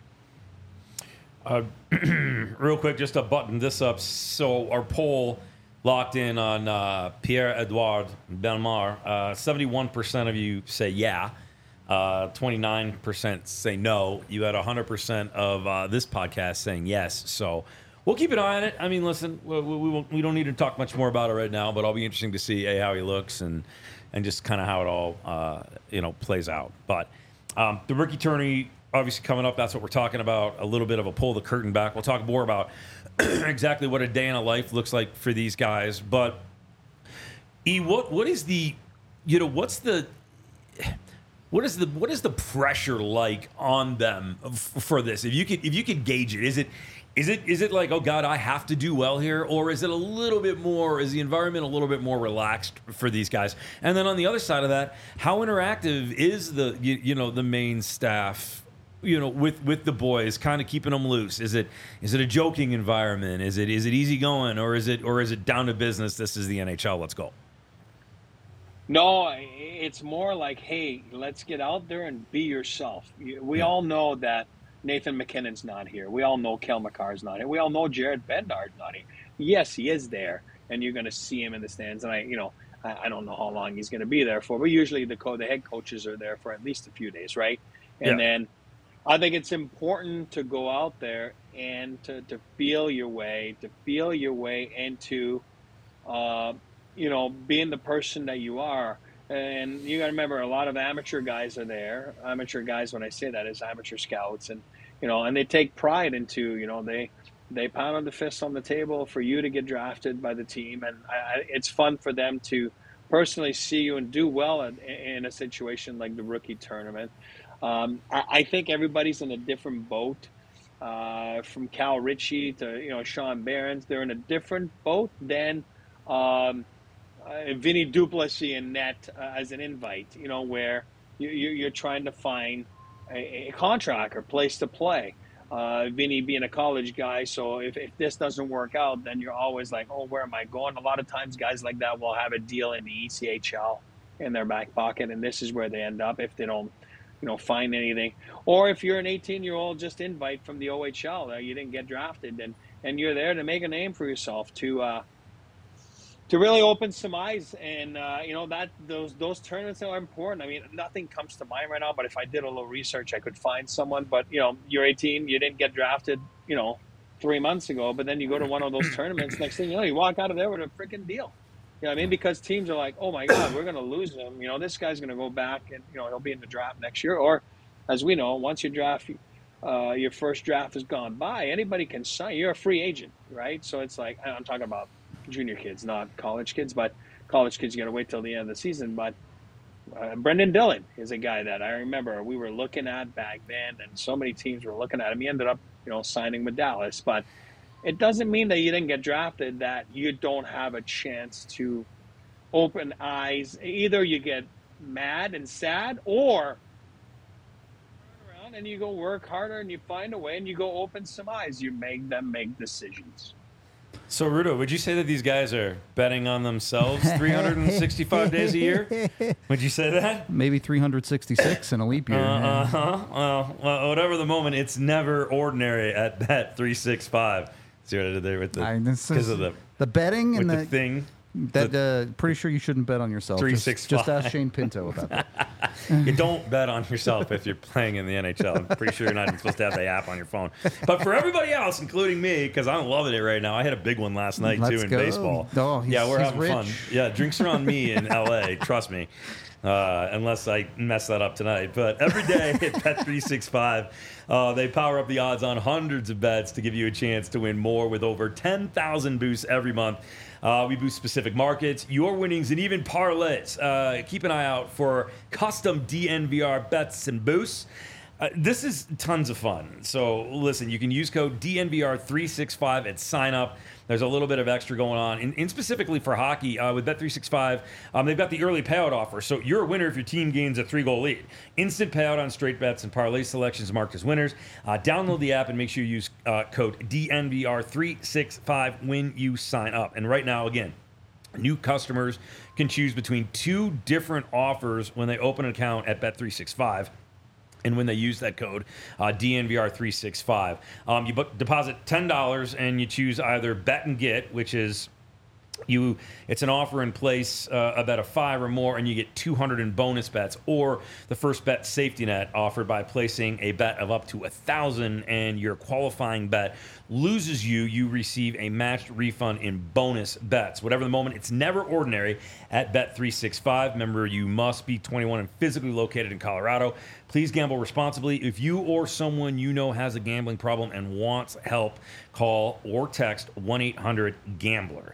Uh, real quick, just to button this up. So our poll locked in on uh, Pierre-Edouard Bellemare. Uh, seventy-one percent of you say yeah. Uh, twenty-nine percent say no. You had one hundred percent of uh, this podcast saying yes. So we'll keep an eye on it. I mean, listen, we, we, we, won't, we don't need to talk much more about it right now, but it'll be interesting to see A, how he looks and and just kind of how it all uh, you know plays out. But um, the rookie tourney obviously coming up. That's what we're talking about. A little bit of a pull the curtain back. We'll talk more about exactly what a day in a life looks like for these guys. But E, what what is the you know what's the What is the what is the pressure like on them f- for this? If you could if you could gauge it, is it is it is it like, oh God, I have to do well here, or is it a little bit more? Is the environment a little bit more relaxed for these guys? And then on the other side of that, how interactive is the you, you know the main staff, you know, with with the boys, kind of keeping them loose? Is it is it a joking environment? Is it is it easy going, or is it or is it down to business? This is the N H L. Let's go. No, it's more like, hey, let's get out there and be yourself. We Yeah. all know that Nathan McKinnon's not here. We all know Kel McCarr's not here. We all know Jared Bednard's not here. Yes, he is there, and you're going to see him in the stands. And I, you know, I, I don't know how long he's going to be there for, but usually the co- the head coaches are there for at least a few days, right? And Yeah. then I think it's important to go out there and to, to feel your way, to feel your way into, uh, you know, being the person that you are. And you got to remember, a lot of amateur guys are there. Amateur guys, when I say that, is amateur scouts, and you know, and they take pride into, you know, they they pound on the fist on the table for you to get drafted by the team, and I, it's fun for them to personally see you and do well in, in a situation like the rookie tournament. Um, I, I think everybody's in a different boat. Uh, from Cal Ritchie to you know Sean Behrens, they're in a different boat than. Um, Uh, Vinny Duplessis and net uh, as an invite, you know, where you, you, you're trying to find a, a contract or place to play. Uh, Vinny being a college guy, so if, if this doesn't work out, then you're always like, oh, where am I going? A lot of times guys like that will have a deal in the E C H L in their back pocket, and this is where they end up if they don't, you know, find anything. Or if you're an eighteen-year-old just invite from the O H L, uh, you didn't get drafted, and, and you're there to make a name for yourself, to uh, to really open some eyes, and uh, you know that those those tournaments are important. I mean, nothing comes to mind right now, but if I did a little research, I could find someone. But you know, you're eighteen, you didn't get drafted, you know, three months ago, but then you go to one of those tournaments. Next thing you know, you walk out of there with a freaking deal. You know what I mean? Because teams are like, oh my God, we're going to lose him. You know, this guy's going to go back, and you know he'll be in the draft next year. Or, as we know, once your draft, uh, your first draft has gone by, anybody can sign. You're a free agent, right? So it's like, I'm talking about junior kids, not college kids, but college kids, you got to wait till the end of the season. But uh, Brendan Dillon is a guy that I remember we were looking at back then, and so many teams were looking at him. He ended up, you know, signing with Dallas. But it doesn't mean that you didn't get drafted that you don't have a chance to open eyes. Either you get mad and sad, or turn down and you go work harder and you find a way and you go open some eyes. You make them make decisions. So, Rudo, would you say that these guys are betting on themselves three hundred sixty-five days a year? Would you say that? Maybe three hundred sixty-six in a leap year. Uh huh. Well, well, whatever the moment, it's never ordinary at Bet three sixty-five. See what I did there with the I- this because is- of the the betting with and the, the, thing. that uh, pretty sure you shouldn't bet on yourself. three Just, sixty-five. just ask Shane Pinto about that. You don't bet on yourself if you're playing in the N H L. I'm pretty sure you're not even supposed to have the app on your phone. But for everybody else, including me, because I'm loving it right now, I had a big one last night Let's too in go. baseball. Oh, he's- yeah, we're he's having rich. fun. Yeah, drinks are on me in L A. Trust me. Uh, unless I mess that up tonight. But every day at Bet three sixty-five, uh, they power up the odds on hundreds of bets to give you a chance to win more with over ten thousand boosts every month. Uh, we boost specific markets, your winnings, and even parlays. Uh, keep an eye out for custom D N V R bets and boosts. Uh, this is tons of fun. So listen, you can use code D N V R three sixty-five at sign up. There's a little bit of extra going on. And, and specifically for hockey, uh, with Bet three sixty-five, um, they've got the early payout offer. So you're a winner if your team gains a three-goal lead. Instant payout on straight bets and parlay selections marked as winners. Uh, download the app and make sure you use uh, code D N V R three sixty-five when you sign up. And right now, again, new customers can choose between two different offers when they open an account at Bet three sixty-five. And when they use that code, uh, D N V R three sixty-five, um, you book, deposit ten dollars and you choose either Bet and Get, which is you. It's an offer in place uh, a bet of five or more, and you get two hundred in bonus bets, or the first bet safety net offered by placing a bet of up to a thousand, and your qualifying bet loses you, you receive a matched refund in bonus bets. Whatever the moment, it's never ordinary at Bet three sixty-five. Remember, you must be twenty-one and physically located in Colorado. Please gamble responsibly. If you or someone you know has a gambling problem and wants help, call or text one eight hundred gambler.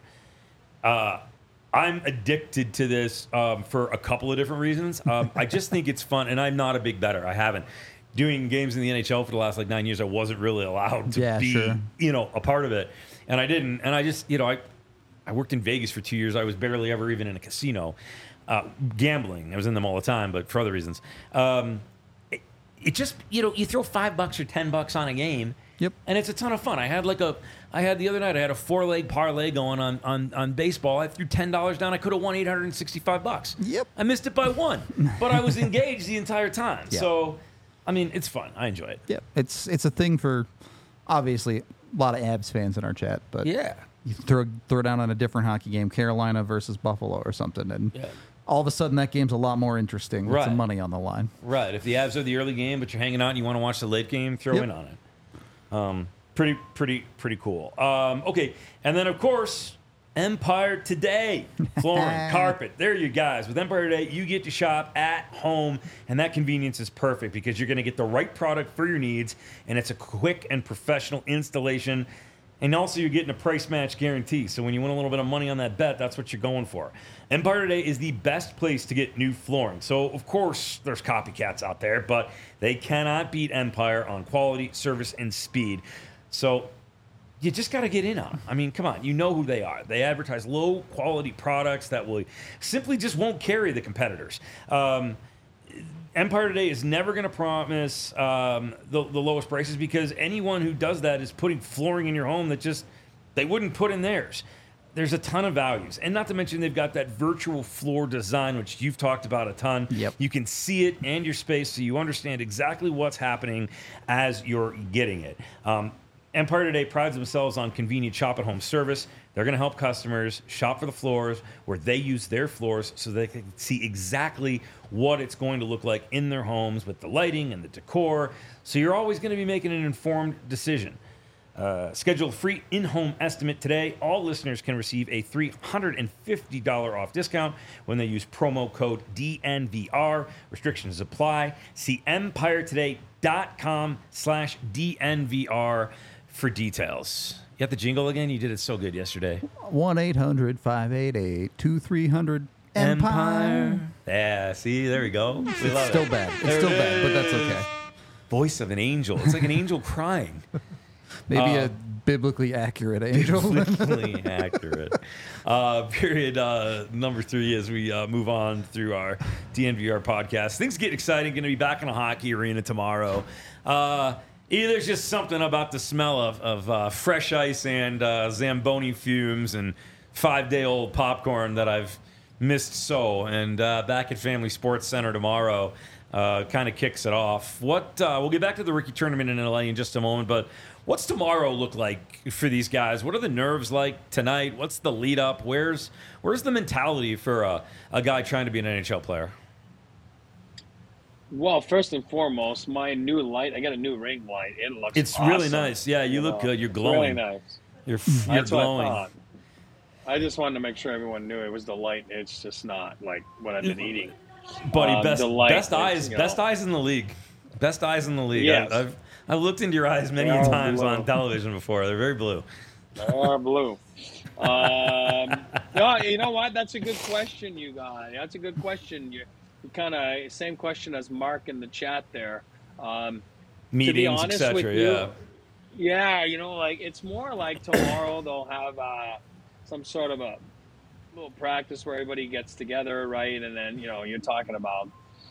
Uh, I'm addicted to this um, for a couple of different reasons. Um, I just think it's fun, and I'm not a big bettor. I haven't. Doing games in the N H L for the last like nine years, I wasn't really allowed to Yeah, be, sure. you know, a part of it, and I didn't. And I just, you know, I, I worked in Vegas for two years. I was barely ever even in a casino, uh, gambling. I was in them all the time, but for other reasons. Um, it, it just, you know, you throw five bucks or ten bucks on a game. Yep. And it's a ton of fun. I had like a, I had the other night, I had a four leg parlay going on on, on baseball. I threw ten dollars down. I could have won eight hundred sixty-five bucks. Yep. I missed it by one, but I was engaged the entire time. Yeah. So, I mean, it's fun. I enjoy it. Yeah, it's it's a thing for obviously a lot of Abs fans in our chat, but Yeah. you throw throw down on a different hockey game, Carolina versus Buffalo or something, and Yeah. all of a sudden that game's a lot more interesting with Right. some money on the line. Right. If the Avs are the early game, but you're hanging out and you want to watch the late game, throw Yep. in on it. Um, pretty, pretty, pretty cool. Um, okay. And then, of course, Empire Today. Flooring, carpet. There you guys. With Empire Today, you get to shop at home, and that convenience is perfect because you're going to get the right product for your needs, and it's a quick and professional installation. And also, you're getting a price match guarantee. So when you win a little bit of money on that bet, that's what you're going for. Empire Today is the best place to get new flooring. So, of course, there's copycats out there, but they cannot beat Empire on quality, service, and speed. So you just got to get in on them. I mean, come on. You know who they are. They advertise low-quality products that will simply just won't carry the competitors. Um, Empire Today is never going to promise um, the, the lowest prices because anyone who does that is putting flooring in your home that just they wouldn't put in theirs. There's a ton of values. And not to mention they've got that virtual floor design, which you've talked about a ton. Yep. You can see it and your space so you understand exactly what's happening as you're getting it. Um, Empire Today prides themselves on convenient shop-at-home service. They're going to help customers shop for the floors where they use their floors so they can see exactly what it's going to look like in their homes with the lighting and the decor. So you're always going to be making an informed decision. Uh, schedule a free in-home estimate today. All listeners can receive a three hundred fifty dollars off discount when they use promo code D N V R. Restrictions apply. See empiretoday.com slash DNVR for details. You got the jingle again? You did it so good yesterday. one eight hundred five eight eight two three hundred Empire. Yeah, see, there we go. We It's love still it. bad. It's There still it bad, but that's is. okay. Voice of an angel. It's like an angel crying. Maybe Uh, a biblically accurate angel. Biblically accurate. Uh, period uh, number three as we uh, move on through our D N V R podcast. Things get exciting. Going to be back in a hockey arena tomorrow. Uh, either there's just something about the smell of, of uh, fresh ice and uh, Zamboni fumes and five-day-old popcorn that I've missed so. And uh, back at Family Sports Center tomorrow uh, kind of kicks it off. What uh, we'll get back to the rookie tournament in L A in just a moment, but what's tomorrow look like for these guys? What are the nerves like tonight? What's the lead up? Where's where's the mentality for a, a guy trying to be an N H L player? Well, first and foremost, my new light, I got a new ring light. It looks It's awesome. really nice. Yeah, you look know, good. You're it's glowing. Really nice. You're, you're That's what I glowing. thought. I just wanted to make sure everyone knew it was the light. It's just not like what I've been eating. Buddy, Um, best the light best is, eyes, you best know- eyes in the league. Best eyes in the league. Yes. I, I've I've looked into your eyes many They are times blue. on television before. They're very blue. They are blue. Um, no, you know what? That's a good question, you guys. That's a good question. You, you kind of same question as Mark in the chat there. Um, Meetings, et honest cetera. with you, Yeah. yeah, you know, like it's more like tomorrow they'll have uh, some sort of a little practice where everybody gets together, right? And then you know you're talking about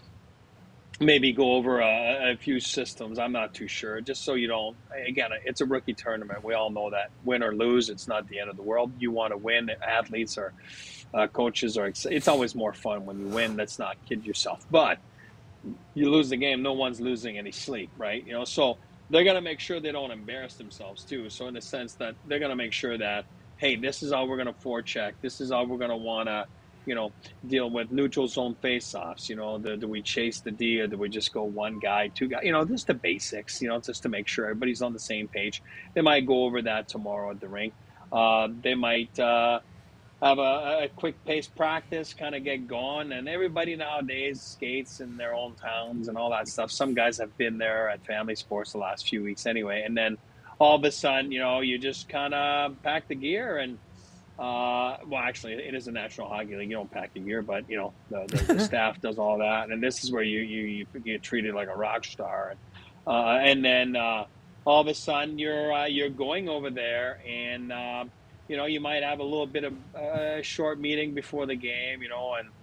maybe go over a, a few systems. I'm not too sure. Just so you don't, again, it's a rookie tournament. We all know that win or lose, it's not the end of the world. You want to win. Athletes or uh, coaches are, it's always more fun when you win. Let's not kid yourself. But you lose the game, no one's losing any sleep, right? You know, so they're going to make sure they don't embarrass themselves too. So in the sense that they're going to make sure that, hey, this is how we're going to forecheck. This is how we're going to want to, you know, deal with neutral zone face-offs. You know, do, do we chase the D or do we just go one guy, two guys? You know, just the basics, you know, just to make sure everybody's on the same page. They might go over that tomorrow at the rink. Uh, they might uh, have a, a quick pace practice, kind of get going. And everybody nowadays skates in their own towns and all that stuff. Some guys have been there at Family Sports the last few weeks anyway. And then all of a sudden, you know, you just kind of pack the gear and, Uh, well, actually, it is a National Hockey League. You don't pack the gear, but you know the, the, the staff does all that, and this is where you you, you get treated like a rock star. And, uh, and then uh, all of a sudden, you're uh, you're going over there, and uh, you know you might have a little bit of a uh, short meeting before the game. You know, and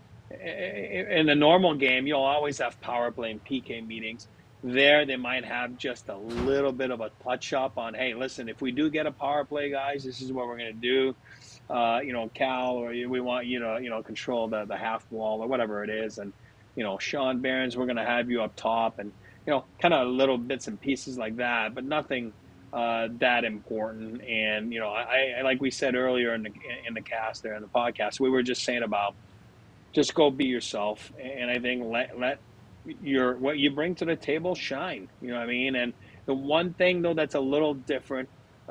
in the normal game, you'll always have power play and P K meetings. There, they might have just a little bit of a touch up on, hey, listen, if we do get a power play, guys, this is what we're going to do. Uh, you know, Cal, or we want you to, you know, control the, the half wall or whatever it is. And, you know, Sean Barons, we're going to have you up top and, you know, kind of little bits and pieces like that, but nothing uh, that important. And, you know, I, I, like we said earlier in the, in the cast there, in the podcast, we were just saying about just go be yourself. And I think let, let your, what you bring to the table shine, you know what I mean? And the one thing though, that's a little different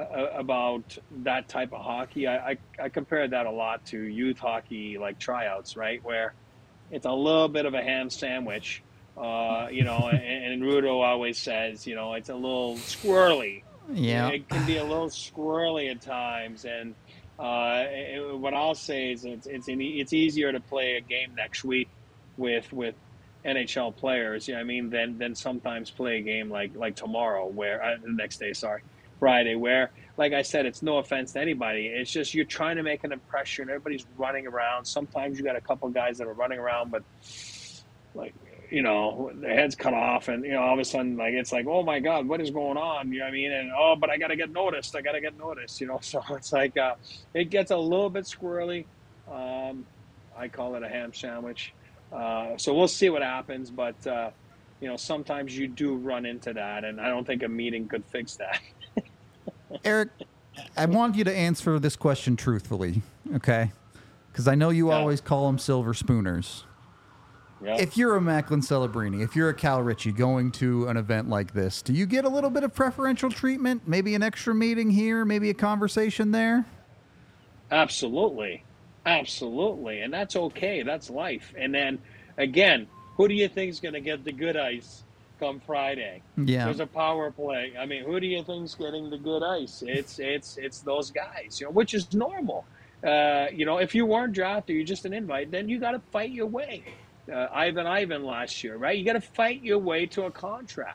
about that type of hockey, I, I, I compare that a lot to youth hockey, like tryouts, right? Where it's a little bit of a ham sandwich, uh, you know, and, and Rudo always says, you know, it's a little squirrely. Yeah. It can be a little squirrely at times. And uh, it, what I'll say is it's, it's, it's easier to play a game next week with, with N H L players, you know what I mean, than, than sometimes play a game like, like tomorrow, where, uh, the next day, sorry. Friday, where, like I said, it's no offense to anybody. It's just you're trying to make an impression. Everybody's running around. Sometimes you got a couple guys that are running around, but like, you know, their heads cut off, and you know, all of a sudden, like it's like, oh my God, what is going on? You know what I mean? And oh, but I got to get noticed. I got to get noticed. You know, so it's like uh, it gets a little bit squirrely. Um, I call it a ham sandwich. Uh, so we'll see what happens, but uh, you know, sometimes you do run into that, and I don't think a meeting could fix that. Eric, I want you to answer this question truthfully, okay? Because I know you Yeah. always call them silver spooners. Yeah. If you're a Macklin Celebrini, if you're a Cal Ritchie going to an event like this, do you get a little bit of preferential treatment? Maybe an extra meeting here, maybe a conversation there? Absolutely. Absolutely. And that's okay. That's life. And then, again, who do you think is going to get the good ice come Friday? Yeah. There's a power play. I mean, who do you think's getting the good ice? It's it's it's those guys, you know, which is normal. Uh, you know, if you weren't drafted, you're just an invite, then you got to fight your way. Uh, Ivan Ivan last year, right? You got to fight your way to a contract.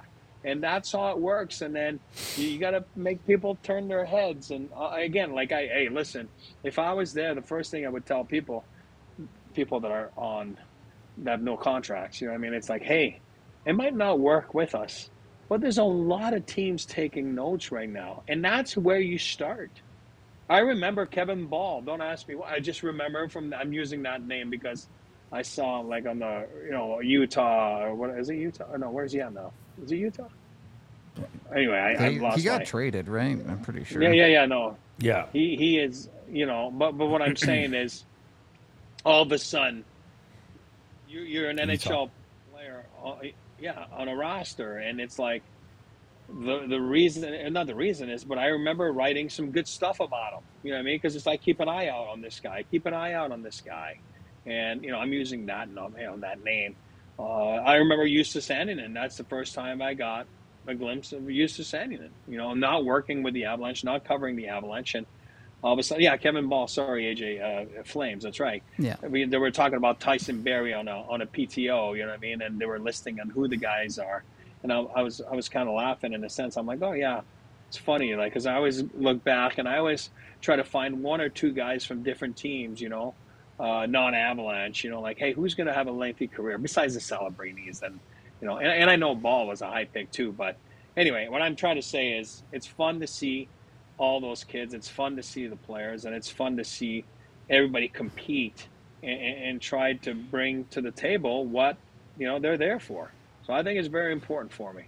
And that's how it works. And then you, you got to make people turn their heads. And uh, again, like I, hey, listen, if I was there, the first thing I would tell people, people that are on, that have no contracts, you know what I mean? It's like, hey, it might not work with us, but there's a lot of teams taking notes right now. And that's where you start. I remember Kevin Ball. Don't ask me why. I just remember from, I'm using that name because I saw him like on the, you know, Utah, or what is it, Utah? Or no, where's he at now? Is it Utah? Anyway, I, He, I lost he got my, traded, right? I'm pretty sure. Yeah, yeah, yeah, no. Yeah. He he is, you know, but but what I'm saying is, all of a sudden, you, you're an N H L player, uh, yeah, on a roster, and it's like, the the reason, and not the reason is, but I remember writing some good stuff about him, you know what I mean? Because it's like, keep an eye out on this guy, keep an eye out on this guy. And, you know, I'm using that, you know, that name. Uh, I remember Justus Annunen. That's the first time I got a glimpse of Justus Annunen. You know, not working with the Avalanche, not covering the Avalanche. And all of a sudden, yeah, Kevin Ball, sorry, A J, uh, Flames, that's right. Yeah. I mean, they were talking about Tyson Barrie on a, on a P T O, you know what I mean? And they were listing on who the guys are. And I, I was I was kind of laughing in a sense. I'm like, oh, yeah, it's funny. Like, because I always look back and I always try to find one or two guys from different teams, you know, Uh, non-Avalanche, you know, like, hey, who's going to have a lengthy career besides the Celebrinis? And, you know, and, and I know Ball was a high pick too. But anyway, what I'm trying to say is it's fun to see all those kids. It's fun to see the players, and it's fun to see everybody compete and, and try to bring to the table what, you know, they're there for. So I think it's very important for me.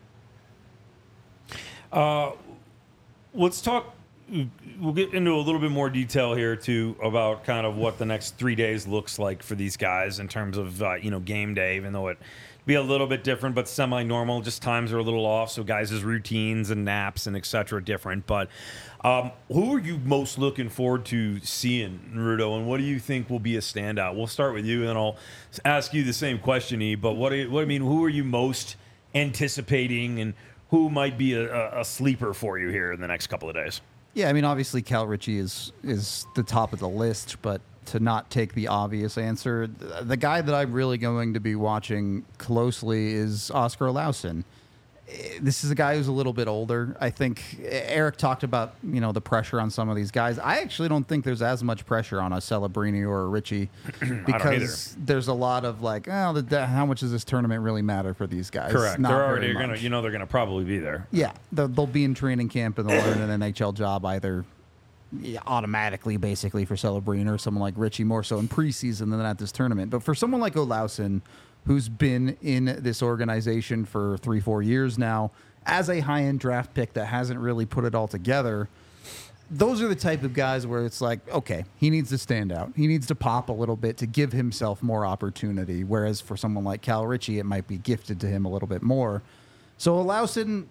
Uh, let's talk. We'll get into a little bit more detail here too about kind of what the next three days looks like for these guys in terms of uh, you know, game day, even though it be a little bit different, but semi-normal. Just times are a little off, so guys' routines and naps and et cetera different. But um, who are you most looking forward to seeing, Rudo, and what do you think will be a standout? We'll start with you, and then I'll ask you the same question, E. But what, do you, what I mean, who are you most anticipating, and who might be a, a sleeper for you here in the next couple of days? Yeah, I mean, obviously Cal Ritchie is is the top of the list, but to not take the obvious answer, the, the guy that I'm really going to be watching closely is Oscar Olausson. This is a guy who's a little bit older. I think Eric talked about, you know, the pressure on some of these guys. I actually don't think there's as much pressure on a Celebrini or a Ritchie because there's a lot of like, oh, the, the, how much does this tournament really matter for these guys? Correct. Not they're already very going to, you know, they're going to probably be there. Yeah, they'll, they'll be in training camp and they'll learn an N H L job either yeah, automatically, basically, for Celebrini or someone like Ritchie, more so in preseason than at this tournament. But for someone like Olausson, who's been in this organization for three, four years now, as a high-end draft pick that hasn't really put it all together, those are the type of guys where it's like, okay, he needs to stand out. He needs to pop a little bit to give himself more opportunity, whereas for someone like Cal Ritchie, it might be gifted to him a little bit more. So Olausson,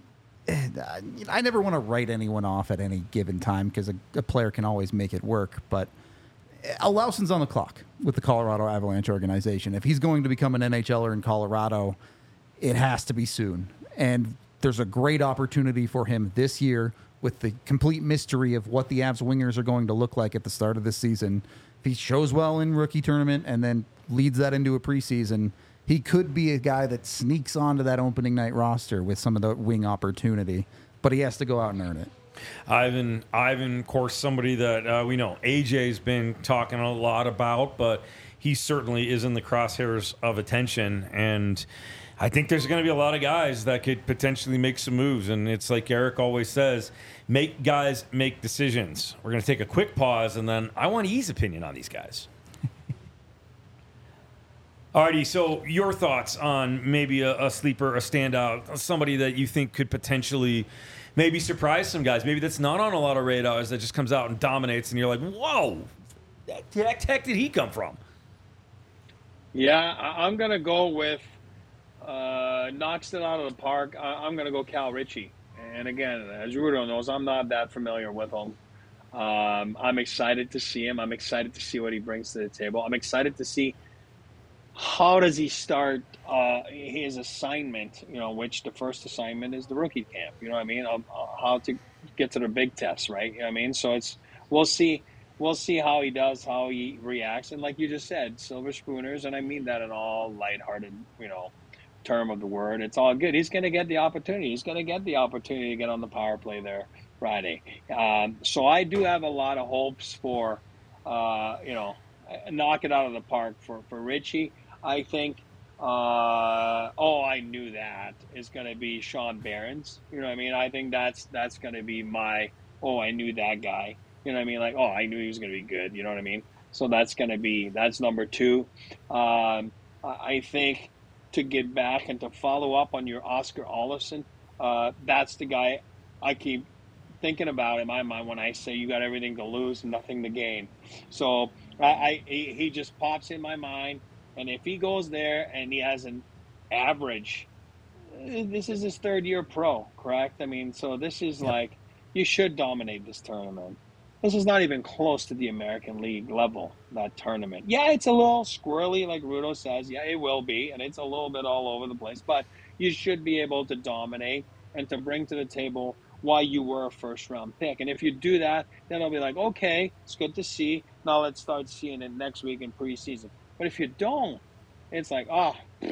I never want to write anyone off at any given time because a, a player can always make it work, but Olausson's on the clock with the Colorado Avalanche organization. If he's going to become an N H L er in Colorado, it has to be soon. And there's a great opportunity for him this year with the complete mystery of what the Avs wingers are going to look like at the start of this season. If he shows well in rookie tournament and then leads that into a preseason, he could be a guy that sneaks onto that opening night roster with some of the wing opportunity, but he has to go out and earn it. Ivan, Ivan, of course, somebody that uh, we know A J's been talking a lot about, but he certainly is in the crosshairs of attention. And I think there's going to be a lot of guys that could potentially make some moves. And it's like Eric always says, make guys make decisions. We're going to take a quick pause, and then I want E's opinion on these guys. Alrighty, so your thoughts on maybe a, a sleeper, a standout, somebody that you think could potentially maybe surprise some guys. Maybe that's not on a lot of radars, that just comes out and dominates, and you're like, whoa, where the heck did he come from? Yeah, I, I'm going to go with, uh, knocks it out of the park. I, I'm going to go Cal Ritchie. And again, as Rudo knows, I'm not that familiar with him. Um, I'm excited to see him. I'm excited to see what he brings to the table. I'm excited to see how does he start uh, his assignment, you know, which the first assignment is the rookie camp, you know what I mean? Um, how to get to the big test, right? You know what I mean? So it's, we'll see, we'll see how he does, how he reacts. And like you just said, silver spooners, and I mean that in all lighthearted, you know, term of the word. It's all good. He's going to get the opportunity. He's going to get the opportunity to get on the power play there Friday. Um, so I do have a lot of hopes for, uh, you know, knock it out of the park for, for Richie. I think, uh, oh, I knew that is going to be Sean Barons. You know what I mean? I think that's that's going to be my, oh, I knew that guy. You know what I mean? Like, oh, I knew he was going to be good. You know what I mean? So that's going to be, that's number two. Um, I think to get back and to follow up on your Oscar Olofsson, uh, that's the guy I keep thinking about in my mind when I say you got everything to lose and nothing to gain. So I, I he, he just pops in my mind, and if he goes there and he has an average, this is his third year pro, correct? I mean, so this is like, you should dominate this tournament. This is not even close to the American League level, that tournament. Yeah, it's a little squirrely, like Rudo says. Yeah, it will be, and it's a little bit all over the place. But you should be able to dominate and to bring to the table why you were a first-round pick. And if you do that, then I'll be like, okay, it's good to see. Now let's start seeing it next week in preseason. But if you don't, it's like, oh,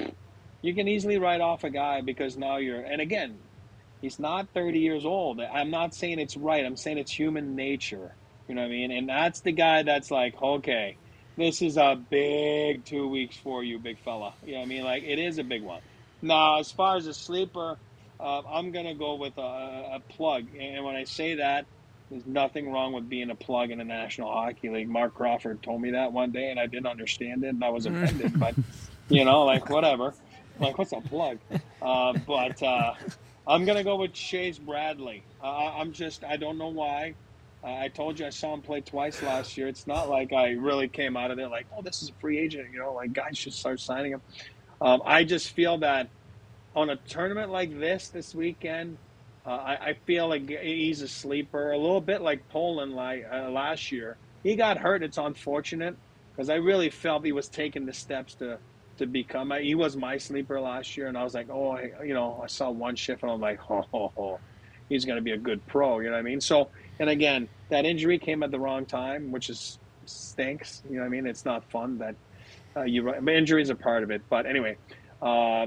you can easily write off a guy because now you're – and again, he's not thirty years old. I'm not saying it's right. I'm saying it's human nature. You know what I mean? And that's the guy that's like, okay, this is a big two weeks for you, big fella. You know what I mean? Like, it is a big one. Now, as far as a sleeper, uh, I'm going to go with a, a plug. And when I say that, there's nothing wrong with being a plug in the National Hockey League. Mark Crawford told me that one day, and I didn't understand it, and I was offended. But, you know, like, whatever. Like, what's a plug? Uh, but uh, I'm going to go with Chase Bradley. Uh, I'm just, I don't know why. Uh, I told you I saw him play twice last year. It's not like I really came out of there like, oh, this is a free agent. You know, like guys should start signing him. Um, I just feel that on a tournament like this this weekend, uh, I, I feel like he's a sleeper, a little bit like Poland like, uh, last year. He got hurt. It's unfortunate because I really felt he was taking the steps to to become. He was my sleeper last year, and I was like, oh, you know, I saw one shift, and I'm like, oh, oh, oh. He's going to be a good pro. You know what I mean? So. And again, that injury came at the wrong time, which is stinks. You know what I mean? It's not fun that uh, you injuries are part of it. But anyway, um,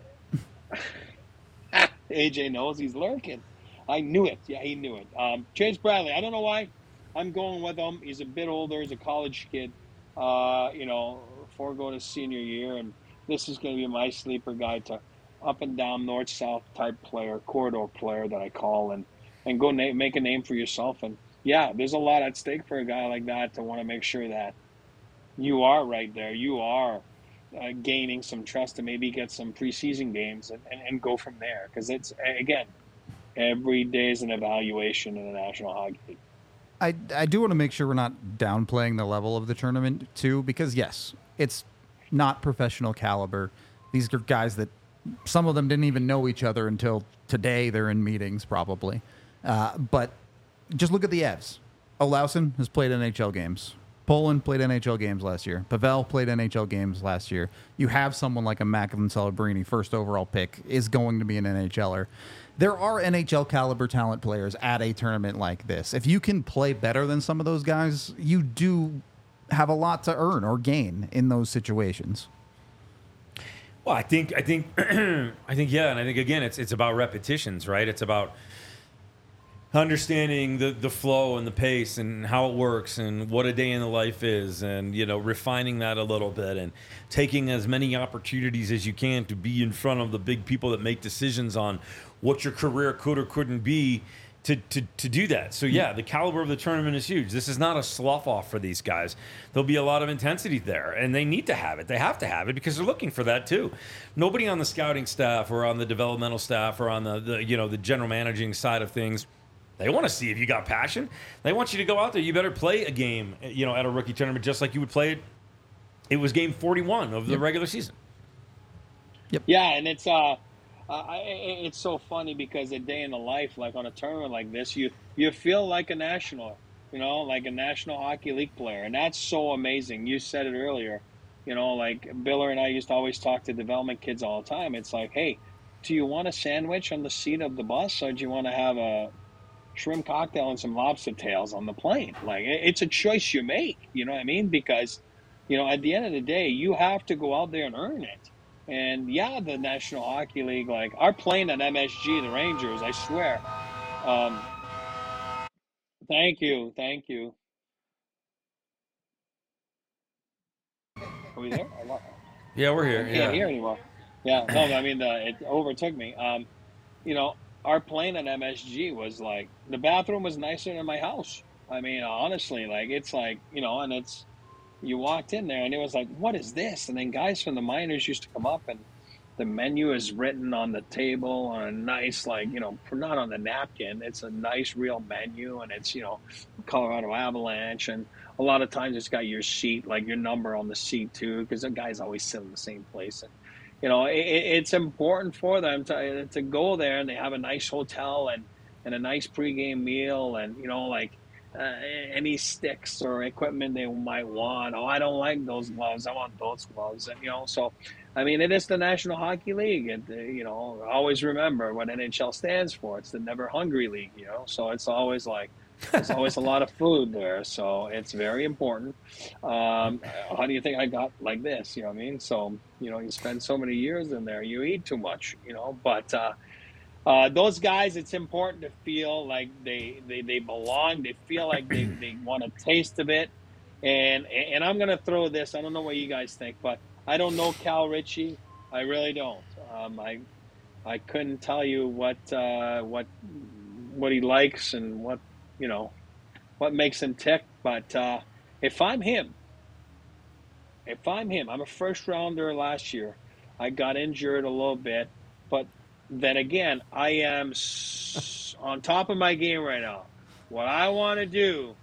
A J knows he's lurking. I knew it. Yeah, he knew it. Um, Chase Bradley. I don't know why. I'm going with him. He's a bit older. He's a college kid. Uh, you know, before going to senior year, and this is going to be my sleeper guy to up and down north south type player, corridor player that I call and. and go na- make a name for yourself. And, yeah, there's a lot at stake for a guy like that to want to make sure that you are right there. You are uh, gaining some trust to maybe get some preseason games and, and, and go from there. Because it's, again, every day is an evaluation in the National Hockey League. I, I do want to make sure we're not downplaying the level of the tournament, too, because, yes, it's not professional caliber. These are guys that some of them didn't even know each other until today. They're in meetings, probably. Uh, but just look at the Evs. Olausson has played N H L games. Poland played N H L games last year. Pavel played N H L games last year. You have someone like a Macklin Celebrini, first overall pick, is going to be an NHLer. There are N H L caliber talent players at a tournament like this. If you can play better than some of those guys, you do have a lot to earn or gain in those situations. Well, I think, I think, I think, yeah, and I think again, it's it's about repetitions, right? It's about understanding the, the flow and the pace and how it works and what a day in the life is, and you know, refining that a little bit and taking as many opportunities as you can to be in front of the big people that make decisions on what your career could or couldn't be. To, to, to do that. So, yeah, the caliber of the tournament is huge. This is not a slough off for these guys. There'll be a lot of intensity there, and they need to have it. They have to have it because they're looking for that, too. Nobody on the scouting staff or on the developmental staff or on the, the you know, the general managing side of things, they want to see if you got passion. They want you to go out there. You better play a game, you know, at a rookie tournament just like you would play it. It was game forty-one of the Yep. regular season. Yep. Yeah, and it's uh, uh, I, it's so funny because a day in the life, like on a tournament like this, you you feel like a national, you know, like a National Hockey League player, and that's so amazing. You said it earlier, you know, like Biller and I used to always talk to development kids all the time. It's like, hey, do you want a sandwich on the seat of the bus, or do you want to have a shrimp cocktail and some lobster tails on the plane? Like, it's a choice you make, you know what I mean? Because, you know, at the end of the day, you have to go out there and earn it. And yeah, the National Hockey League, like our playing at M S G, the Rangers, I swear. Um, thank you, thank you. Are we there? I lo- Yeah, we're here. I can't Yeah. hear anymore. Yeah, no, I mean, the, it overtook me. Um, you know, our plane at M S G was like, the bathroom was nicer than my house. I mean, honestly, like, it's like, you know, and it's, you walked in there and it was like, what is this? And then guys from the minors used to come up and the menu is written on the table on a nice, like, you know, not on the napkin. It's a nice real menu and it's, you know, Colorado Avalanche. And a lot of times it's got your seat, like your number on the seat too, because the guys always sit in the same place. And, you know, it, it's important for them to to go there and they have a nice hotel and, and a nice pregame meal and, you know, like uh, any sticks or equipment they might want. Oh, I don't like those gloves. I want those gloves. And, you know, so, I mean, it is the National Hockey League. And, uh, you know, always remember what N H L stands for. It's the Never Hungry League, you know, so it's always like, there's always a lot of food there, so it's very important. Um, how do you think I got like this? You know what I mean? So, you know, you spend so many years in there, you eat too much, you know. But uh, uh, those guys, it's important to feel like they, they, they belong. They feel like they, they want a taste of it. And and I'm going to throw this. I don't know what you guys think, but I don't know Cal Ritchie. I really don't. Um, I I couldn't tell you what uh, what what he likes and what, you know, what makes him tick. But uh, if I'm him, if I'm him, I'm a first rounder last year. I got injured a little bit, but then again, I am s- on top of my game right now. What I want to do,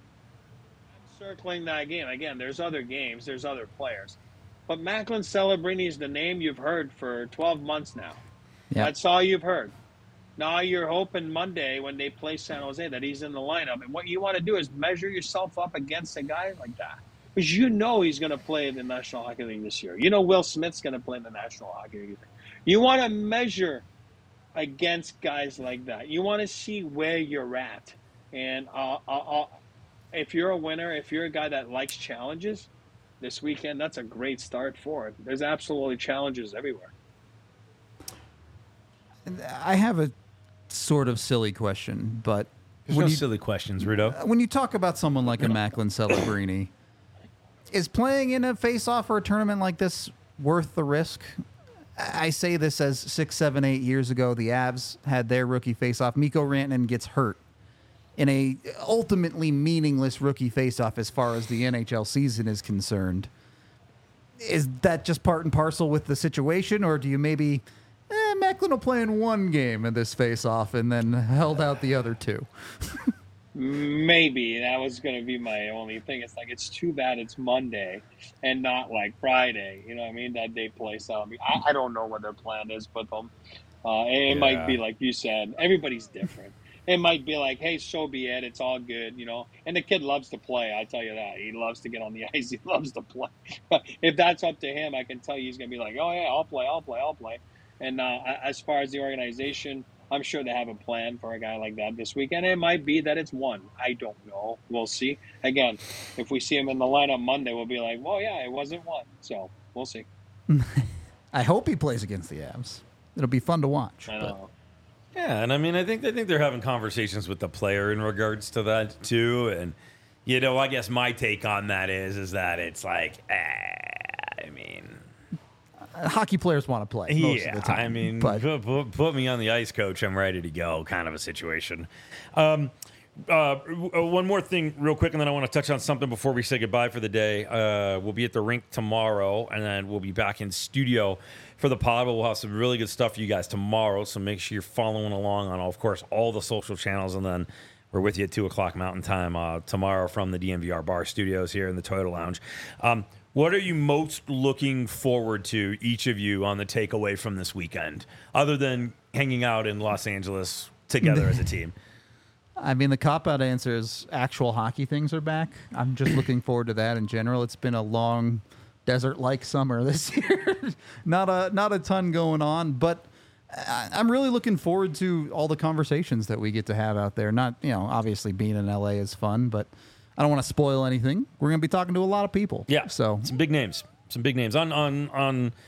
I'm circling that game. Again, there's other games, there's other players. But Macklin Celebrini is the name you've heard for twelve months now. Yeah. That's all you've heard. Now you're hoping Monday when they play San Jose that he's in the lineup. And what you want to do is measure yourself up against a guy like that. Because you know he's going to play in the National Hockey League this year. You know Will Smith's going to play in the National Hockey League. You want to measure against guys like that. You want to see where you're at. And uh, uh, uh, if you're a winner, if you're a guy that likes challenges, this weekend, that's a great start for it. There's absolutely challenges everywhere. I have a sort of silly question, but There's when no you, silly questions, Rudo. when you talk about someone like a Macklin Celebrini, is playing in a face-off or a tournament like this worth the risk? I say this as six, seven, eight years ago, the Avs had their rookie face-off. Mikko Rantanen gets hurt in a ultimately meaningless rookie face-off as far as the N H L season is concerned. Is that just part and parcel with the situation, or do you maybe... Eh, Macklin will play in one game in this face-off and then held out the other two. Maybe that was going to be my only thing. It's like, it's too bad it's Monday and not like Friday. You know what I mean? That they play so. I mean, I, I don't know what their plan is, but um, uh, it Yeah. might be like you said. Everybody's different. It might be like, hey, so be it. It's all good, you know. And the kid loves to play. I tell you that. He loves to get on the ice. He loves to play. If that's up to him, I can tell you he's going to be like, oh yeah, I'll play, I'll play, I'll play. And uh, as far as the organization, I'm sure they have a plan for a guy like that this weekend. It might be that it's one. I don't know. We'll see. Again, if we see him in the lineup Monday, we'll be like, well, yeah, it wasn't one. So we'll see. I hope he plays against the Avs. It'll be fun to watch. I but- know. Yeah, and I mean, I think I think they're having conversations with the player in regards to that too. And you know, I guess my take on that is is that it's like, eh, I mean. Hockey players want to play most yeah, of the time. I mean, but put, put, put me on the ice, coach. I'm ready to go, kind of a situation. Um, uh, one more thing, real quick, and then I want to touch on something before we say goodbye for the day. Uh, we'll be at the rink tomorrow, and then we'll be back in studio for the pod. But we'll have some really good stuff for you guys tomorrow, so make sure you're following along on, of course, all the social channels, and then we're with you at two o'clock Mountain Time uh, tomorrow from the D M V R Bar Studios here in the Toyota Lounge. Um, What are you most looking forward to, each of you, on the takeaway from this weekend, other than hanging out in Los Angeles together as a team? I mean, the cop-out answer is actual hockey things are back. I'm just looking forward to that in general. It's been a long desert-like summer this year. not a not a ton going on, but I- I'm really looking forward to all the conversations that we get to have out there. Not, you know, obviously being in L A is fun, but I don't want to spoil anything. We're going to be talking to a lot of people. Yeah, So some big names, some big names on on on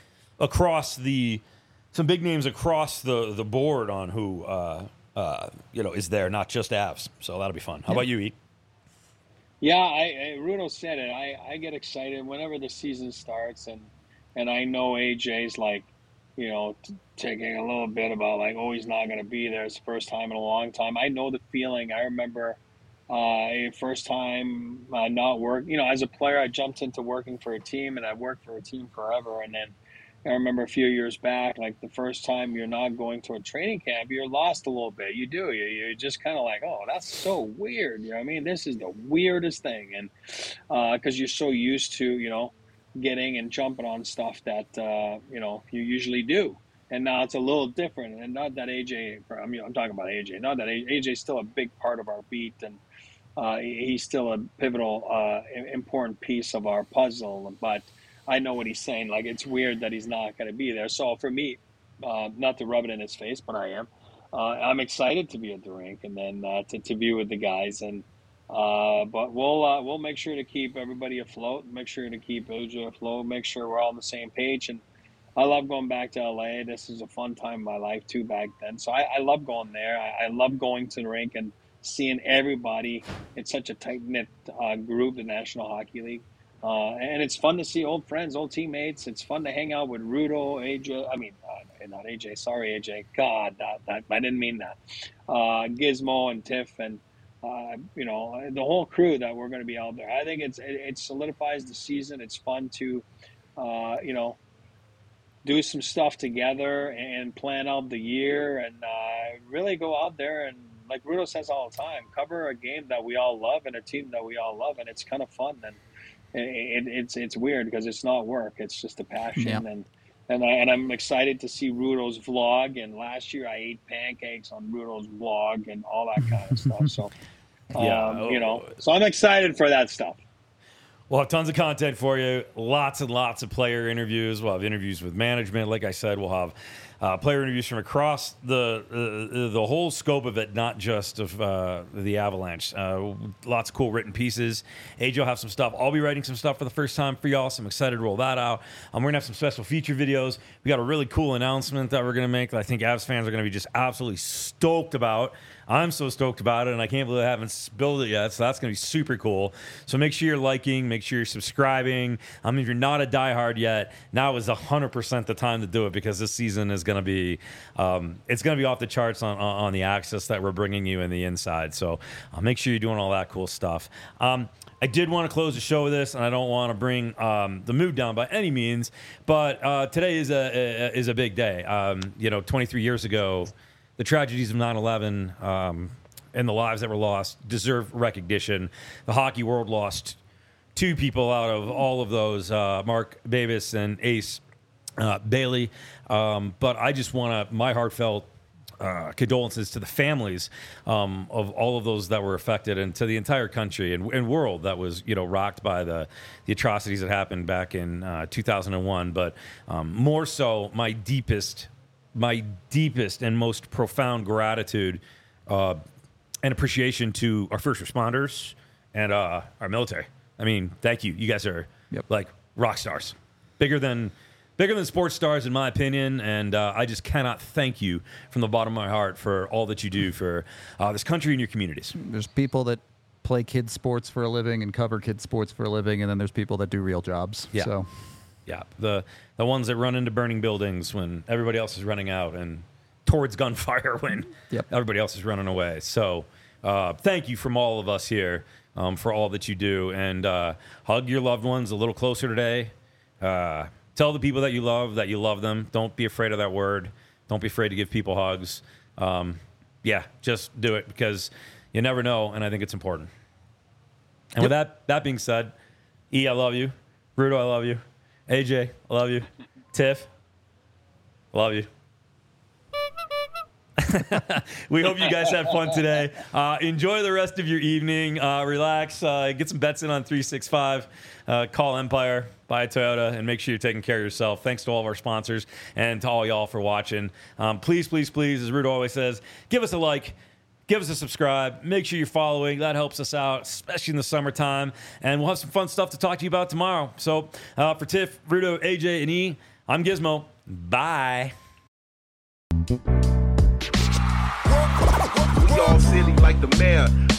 across the some big names across the the board on who uh, uh, you know is there, not just Avs. So that'll be fun. How Yeah. about you, E? Yeah, I, I Rudo said it. I, I get excited whenever the season starts, and and I know A J's like, you know, t- taking a little bit about like, oh, he's not going to be there. It's the first time in a long time. I know the feeling. I remember uh, first time uh, not work. You know, as a player, I jumped into working for a team, and I worked for a team forever, and then I remember a few years back, like the first time you're not going to a training camp, you're lost a little bit. You do. You, you're just kind of like, oh, that's so weird. You know what I mean? This is the weirdest thing. And because uh, you're so used to, you know, getting and jumping on stuff that, uh, you know, you usually do. And now it's a little different. And not that A J, I mean, I'm talking about A J, not that A J's still a big part of our beat. And uh, he's still a pivotal, uh, important piece of our puzzle. But I know what he's saying. Like, it's weird that he's not going to be there. So for me, uh, not to rub it in his face, but I am. Uh, I'm excited to be at the rink and then uh, to, to be with the guys. And uh, but we'll uh, we'll make sure to keep everybody afloat. Make sure to keep O J afloat. Make sure we're all on the same page. And I love going back to L A. This is a fun time in my life too back then. So I, I love going there. I, I love going to the rink and seeing everybody. It's such a tight knit uh, group, the National Hockey League. Uh, and it's fun to see old friends, old teammates. It's fun to hang out with Rudo, A J. I mean, uh, not A J. Sorry, A J. God, that, that, I didn't mean that. Uh, Gizmo and Tiff and, uh, you know, the whole crew that we're going to be out there. I think it's it, it solidifies the season. It's fun to, uh, you know, do some stuff together and plan out the year and uh, really go out there and, like Rudo says all the time, cover a game that we all love and a team that we all love. And it's kind of fun. And It, it, it's it's weird because it's not work; it's just a passion, Yeah. and and I, and I'm excited to see Rudo's vlog. And last year I ate pancakes on Rudo's vlog and all that kind of stuff. So, um, Yeah. you know, so I'm excited for that stuff. We'll have tons of content for you. Lots and lots of player interviews. We'll have interviews with management. Like I said, we'll have uh, player interviews from across the uh, the whole scope of it, not just of uh, the Avalanche. Uh, lots of cool written pieces. A J will have some stuff. I'll be writing some stuff for the first time for y'all, so I'm excited to roll that out. Um, we're going to have some special feature videos. We got a really cool announcement that we're going to make that I think Avs fans are going to be just absolutely stoked about. I'm so stoked about it, and I can't believe I haven't spilled it yet, so that's going to be super cool. So make sure you're liking, make sure you're subscribing. I mean, if you're not a diehard yet, now is one hundred percent the time to do it because this season is going to be um, it's going to be off the charts on, on, on the access that we're bringing you in the inside. So uh, make sure you're doing all that cool stuff. Um, I did want to close the show with this, and I don't want to bring um, the mood down by any means, but uh, today is a, a is a big day. Um, you know, twenty-three years ago, the tragedies of nine eleven um, and the lives that were lost deserve recognition. The hockey world lost two people out of all of those, uh, Mark Babis and Ace uh, Bailey. Um, but I just want to, my heartfelt uh, condolences to the families um, of all of those that were affected and to the entire country and, and world that was, you know, rocked by the, the atrocities that happened back in uh, two thousand one. But um, more so, my deepest my deepest and most profound gratitude uh, and appreciation to our first responders and uh, our military. I mean, thank you. You guys are Yep. like rock stars, bigger than bigger than sports stars, in my opinion. And uh, I just cannot thank you from the bottom of my heart for all that you do for uh, this country and your communities. There's people that play kids sports for a living and cover kids sports for a living, and then there's people that do real jobs. Yeah. So Yeah, the the ones that run into burning buildings when everybody else is running out and towards gunfire when Yep. everybody else is running away. So uh, thank you from all of us here um, for all that you do. And uh, hug your loved ones a little closer today. Uh, tell the people that you love that you love them. Don't be afraid of that word. Don't be afraid to give people hugs. Um, yeah, just do it because you never know, and I think it's important. And Yep. with that, that being said, E, I love you. Rudo, I love you. A J, I love you. Tiff, I love you. We hope you guys had fun today. Uh, enjoy the rest of your evening. Uh, relax. Uh, get some bets in on three sixty-five. Uh, call Empire. Buy a Toyota. And make sure you're taking care of yourself. Thanks to all of our sponsors and to all y'all for watching. Um, please, please, please, as Rudo always says, give us a like. Give us a subscribe. Make sure you're following. That helps us out, especially in the summertime. And we'll have some fun stuff to talk to you about tomorrow. So uh, for Tiff, Rudo, A J, and E, I'm Gizmo. Bye. We all silly like the mayor.